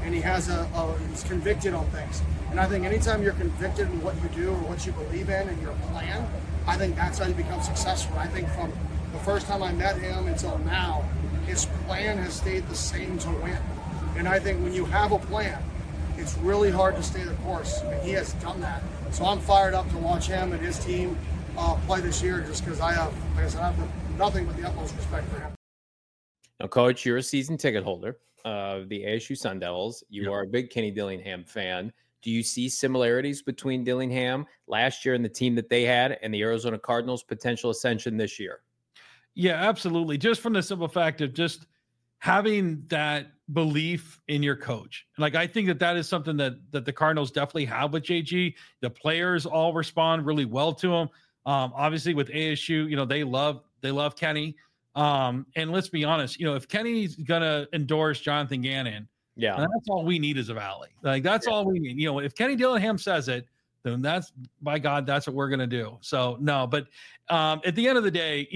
and he's convicted on things. And I think anytime you're convicted in what you do or what you believe in and your plan, I think that's how you become successful. I think from the first time I met him until now, his plan has stayed the same to win. And I think when you have a plan, it's really hard to stay the course, and he has done that. So I'm fired up to watch him and his team play this year, just because I have nothing but the utmost respect for him. Now, Coach, you're a season ticket holder of the ASU Sun Devils. You are a big Kenny Dillingham fan. Do you see similarities between Dillingham last year and the team that they had and the Arizona Cardinals' potential ascension this year? Yeah, absolutely. Just from the simple fact of just having that belief in your coach. Like, I think that is something that the Cardinals definitely have with JG. The players all respond really well to him. Obviously with ASU, they love Kenny. And let's be honest, if Kenny's going to endorse Jonathan Gannon, that's all we need as a Valley. Like, that's all we need. If Kenny Dillingham says it, then that's, by God, that's what we're going to do. So no, but at the end of the day,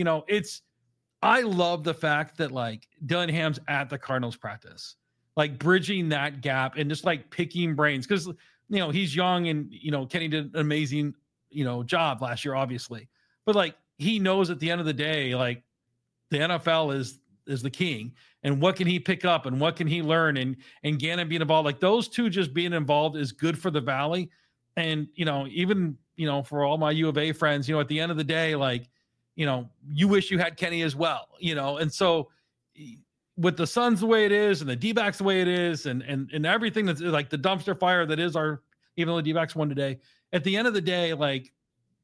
I love the fact that like Dillingham's at the Cardinals practice, like bridging that gap and just like picking brains. Cause he's young and, Kenny did an amazing, job last year, obviously, but like, he knows at the end of the day, like the NFL is the king, and what can he pick up and what can he learn, and Gannon being involved, like those two just being involved is good for the Valley. And, even, for all my U of A friends, at the end of the day, like, you wish you had Kenny as well, and so with the Suns the way it is and the D-backs the way it is and everything that's like the dumpster fire that is even though the D-backs won today, at the end of the day, like,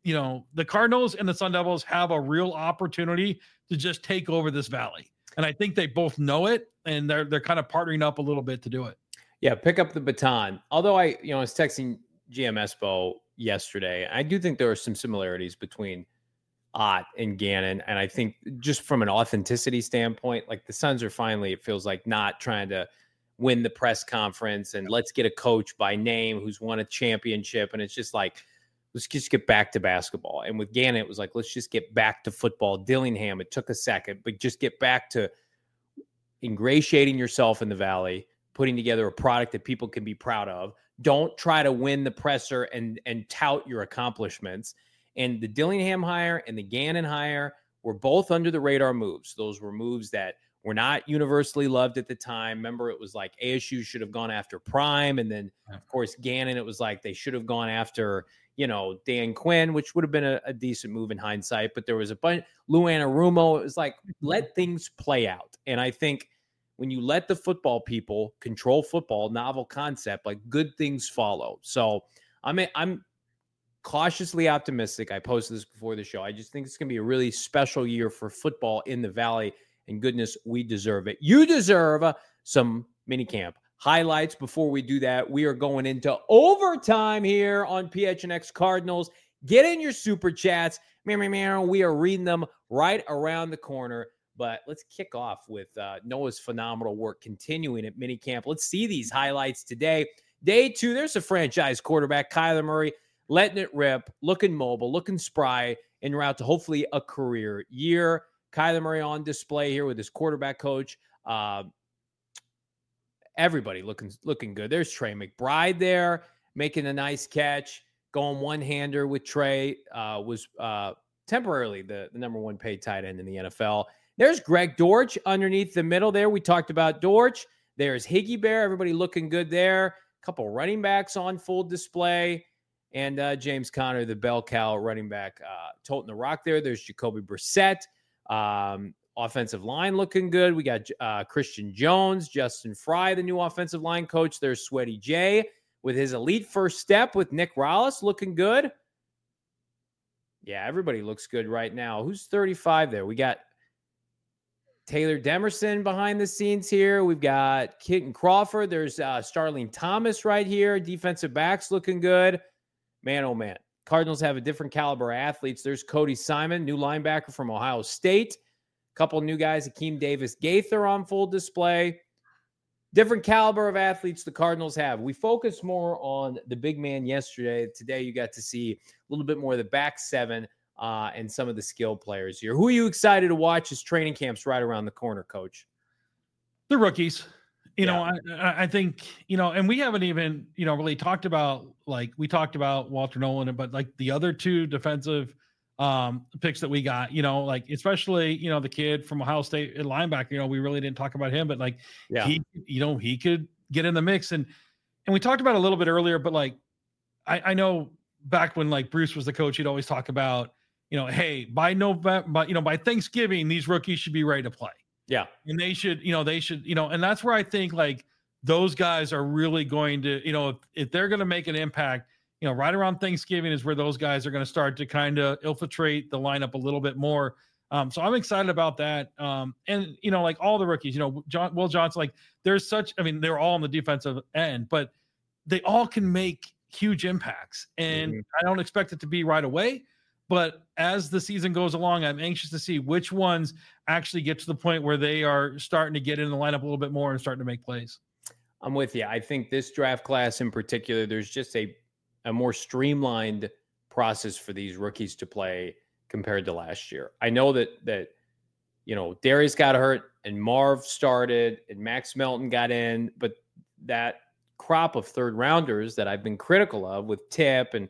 the Cardinals and the Sun Devils have a real opportunity to just take over this Valley. And I think they both know it, and they're kind of partnering up a little bit to do it. Yeah, pick up the baton. Although I was texting GM Espo yesterday, I do think there are some similarities between Ott and Gannon. And I think just from an authenticity standpoint, like the Suns are finally, it feels like, not trying to win the press conference and let's get a coach by name who's won a championship. And it's just like, let's just get back to basketball. And with Gannon, it was like, let's just get back to football. Dillingham, it took a second, but just get back to ingratiating yourself in the Valley, putting together a product that people can be proud of. Don't try to win the presser and tout your accomplishments. And the Dillingham hire and the Gannon hire were both under the radar moves. Those were moves that were not universally loved at the time. Remember, it was like ASU should have gone after Prime. And then, of course, Gannon, it was like they should have gone after, Dan Quinn, which would have been a decent move in hindsight. But there was a bunch, Lou Anarumo. It was like, let things play out. And I think when you let the football people control football, novel concept, like good things follow. So I'm cautiously optimistic. I posted this before the show. I just think it's going to be a really special year for football in the Valley. And goodness, we deserve it. You deserve some mini camp highlights. Before we do that, we are going into overtime here on PHNX Cardinals. Get in your super chats. We are reading them right around the corner. But let's kick off with Noah's phenomenal work continuing at minicamp. Let's see these highlights today. Day 2, there's a franchise quarterback, Kyler Murray, letting it rip, looking mobile, looking spry, en route to hopefully a career year. Kyler Murray on display here with his quarterback coach. Everybody looking good. There's Trey McBride there, making a nice catch, going one-hander with Trey. Was temporarily the number one paid tight end in the NFL. There's Greg Dortch underneath the middle there. We talked about Dortch. There's Higgy Bear. Everybody looking good there. A couple running backs on full display. And James Conner, the bell cow running back, toting the rock there. There's Jacoby Brissett. Offensive line looking good. We got Christian Jones, Justin Fry, the new offensive line coach. There's Sweaty J with his elite first step with Nick Rallis looking good. Yeah, everybody looks good right now. Who's 35 there? We got Taylor Demerson behind the scenes here. We've got Keaton Crawford. There's Starling Thomas right here. Defensive backs looking good. Man, oh man. Cardinals have a different caliber of athletes. There's Cody Simon, new linebacker from Ohio State. A couple new guys, Akeem Davis-Gaither on full display. Different caliber of athletes the Cardinals have. We focused more on the big man yesterday. Today you got to see a little bit more of the back seven and some of the skill players here. Who are you excited to watch as training camps right around the corner, Coach? The rookies. You know, I think, you know, and we haven't even, you know, really talked about, like, we talked about Walter Nolan, but like the other two defensive picks that we got, you know, like, especially, you know, the kid from Ohio State linebacker, you know, we really didn't talk about him, but like, he, you know, he could get in the mix. And we talked about it a little bit earlier, but like, I know back when like Bruce was the coach, he'd always talk about, you know, hey, by November, you know, by Thanksgiving, these rookies should be ready to play. Yeah. And they should, you know, and that's where I think like those guys are really going to, you know, if they're going to make an impact, you know, right around Thanksgiving is where those guys are going to start to kind of infiltrate the lineup a little bit more. So I'm excited about that. And, you know, like all the rookies, you know, Will Johnson, like there's such, I mean, they're all on the defensive end, but they all can make huge impacts. And I don't expect it to be right away. But as the season goes along, I'm anxious to see which ones actually get to the point where they are starting to get in the lineup a little bit more and starting to make plays. I'm with you. I think this draft class in particular, there's just a more streamlined process for these rookies to play compared to last year. I know that you know, Darius got hurt and Marv started and Max Melton got in, but that crop of third rounders that I've been critical of with Tip and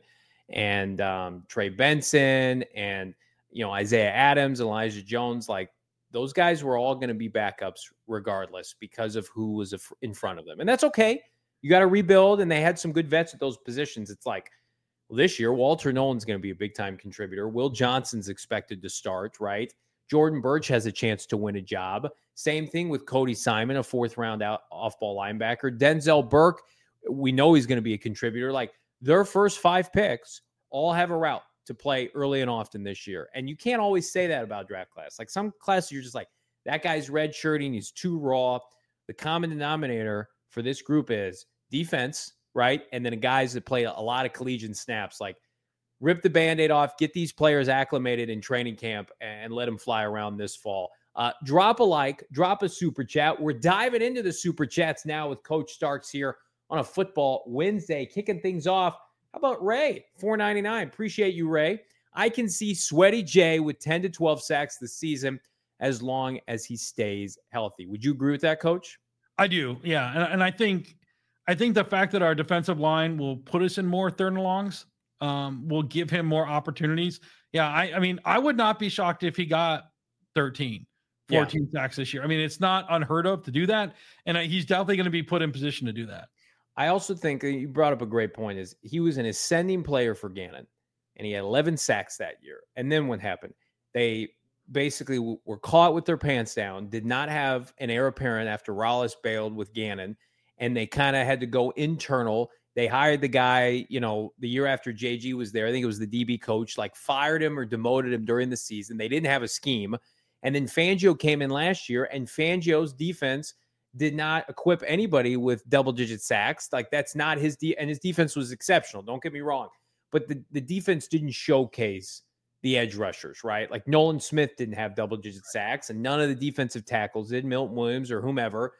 Trey Benson and, you know, Isaiah Adams, Elijah Jones, like those guys were all going to be backups regardless because of who was in front of them. And that's okay. You got to rebuild, and they had some good vets at those positions. It's like, well, this year, Walter Nolan's going to be a big-time contributor. Will Johnson's expected to start, right? Jordan Birch has a chance to win a job. Same thing with Cody Simon, a fourth-round off-ball linebacker. Denzel Burke, we know he's going to be a contributor. Like, their first 5 picks all have a route to play early and often this year. And you can't always say that about draft class. Like some classes, you're just like, that guy's redshirting, he's too raw. The common denominator for this group is defense, right? And then guys that play a lot of collegiate snaps, like rip the Band-Aid off, get these players acclimated in training camp and let them fly around this fall. Drop a like, drop a super chat. We're diving into the super chats now with Coach Starks here on a Football Wednesday, kicking things off. How about Ray? $4.99. Appreciate you, Ray. I can see Sweaty J with 10 to 12 sacks this season as long as he stays healthy. Would you agree with that, Coach? I do, yeah. And I think the fact that our defensive line will put us in more third and longs will give him more opportunities. Yeah, I mean, I would not be shocked if he got 13, 14 sacks this year. I mean, it's not unheard of to do that, and he's definitely going to be put in position to do that. I also think you brought up a great point is he was an ascending player for Gannon, and he had 11 sacks that year. And then what happened? They basically were caught with their pants down, did not have an heir apparent after Rollis bailed with Gannon, and they kind of had to go internal. They hired the guy, you know, the year after JG was there. I think it was the DB coach, like fired him or demoted him during the season. They didn't have a scheme. And then Fangio came in last year, and Fangio's defense did not equip anybody with double-digit sacks. Like, that's not his and his defense was exceptional. Don't get me wrong. But the defense didn't showcase the edge rushers, right? Like, Nolan Smith didn't have double-digit sacks, and none of the defensive tackles did, Milton Williams or whomever.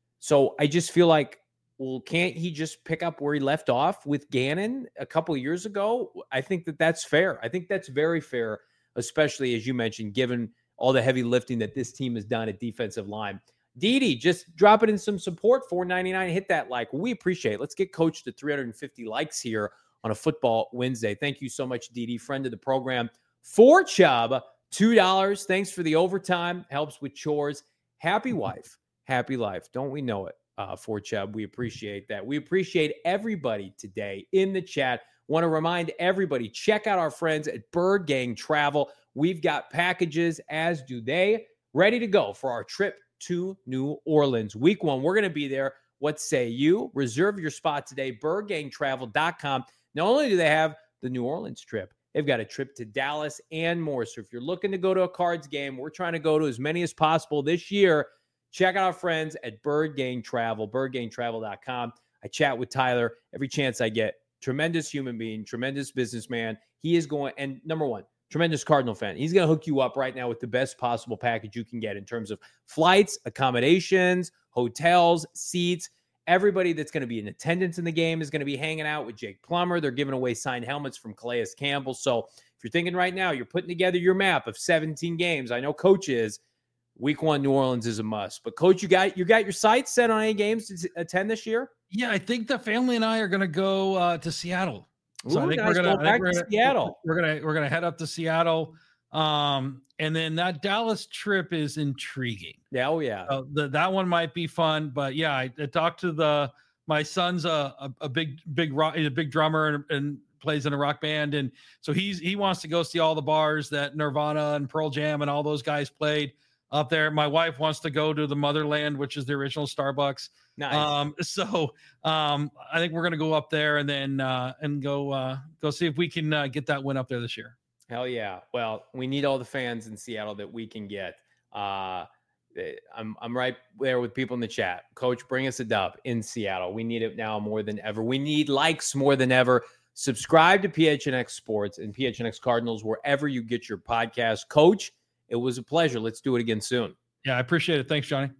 So I just feel like, well, can't he just pick up where he left off with Gannon a couple of years ago? I think that's fair. I think that's very fair, especially, as you mentioned, given all the heavy lifting that this team has done at defensive line. Didi, just drop it in some support, $4.99. Hit that like. We appreciate it. Let's get Coach to 350 likes here on a Football Wednesday. Thank you so much, Didi, friend of the program. For Chubb, $2. Thanks for the overtime. Helps with chores. Happy wife, happy life. Don't we know it? For Chubb, we appreciate that. We appreciate everybody today in the chat. Want to remind everybody, check out our friends at Bird Gang Travel. We've got packages, as do they, ready to go for our trip to New Orleans. Week 1, we're going to be there. What say you? Reserve your spot today, birdgangtravel.com. Not only do they have the New Orleans trip, they've got a trip to Dallas and more. So if you're looking to go to a Cards game, we're trying to go to as many as possible this year. Check out our friends at Bird Gang Travel, birdgangtravel.com. I chat with Tyler every chance I get. Tremendous human being, tremendous businessman. He is going, and number one, tremendous Cardinal fan. He's going to hook you up right now with the best possible package you can get in terms of flights, accommodations, hotels, seats. Everybody that's going to be in attendance in the game is going to be hanging out with Jake Plummer. They're giving away signed helmets from Calais Campbell. So if you're thinking right now, you're putting together your map of 17 games. I know Coach is. Week 1, New Orleans is a must. But Coach, you got your sights set on any games to attend this year? Yeah, I think the family and I are going to go to Seattle. So Ooh, I think nice. Go back to Seattle. We're gonna head up to Seattle, and then that Dallas trip is intriguing. Yeah, oh yeah. That one might be fun, but yeah, I talked to my son's a big rock, he's a big drummer and plays in a rock band, and so he wants to go see all the bars that Nirvana and Pearl Jam and all those guys played up there. My wife wants to go to the Motherland, which is the original Starbucks. Nice. So I think we're gonna go up there and then and go see if we can get that win up there this year. Hell yeah. Well, we need all the fans in Seattle that we can get. I'm right there with people in the chat. Coach, bring us a dub in Seattle. We need it now more than ever. We need likes more than ever. Subscribe to PHNX Sports and PHNX Cardinals wherever you get your podcast. Coach, it was a pleasure. Let's do it again soon. Yeah, I appreciate it. Thanks, Johnny.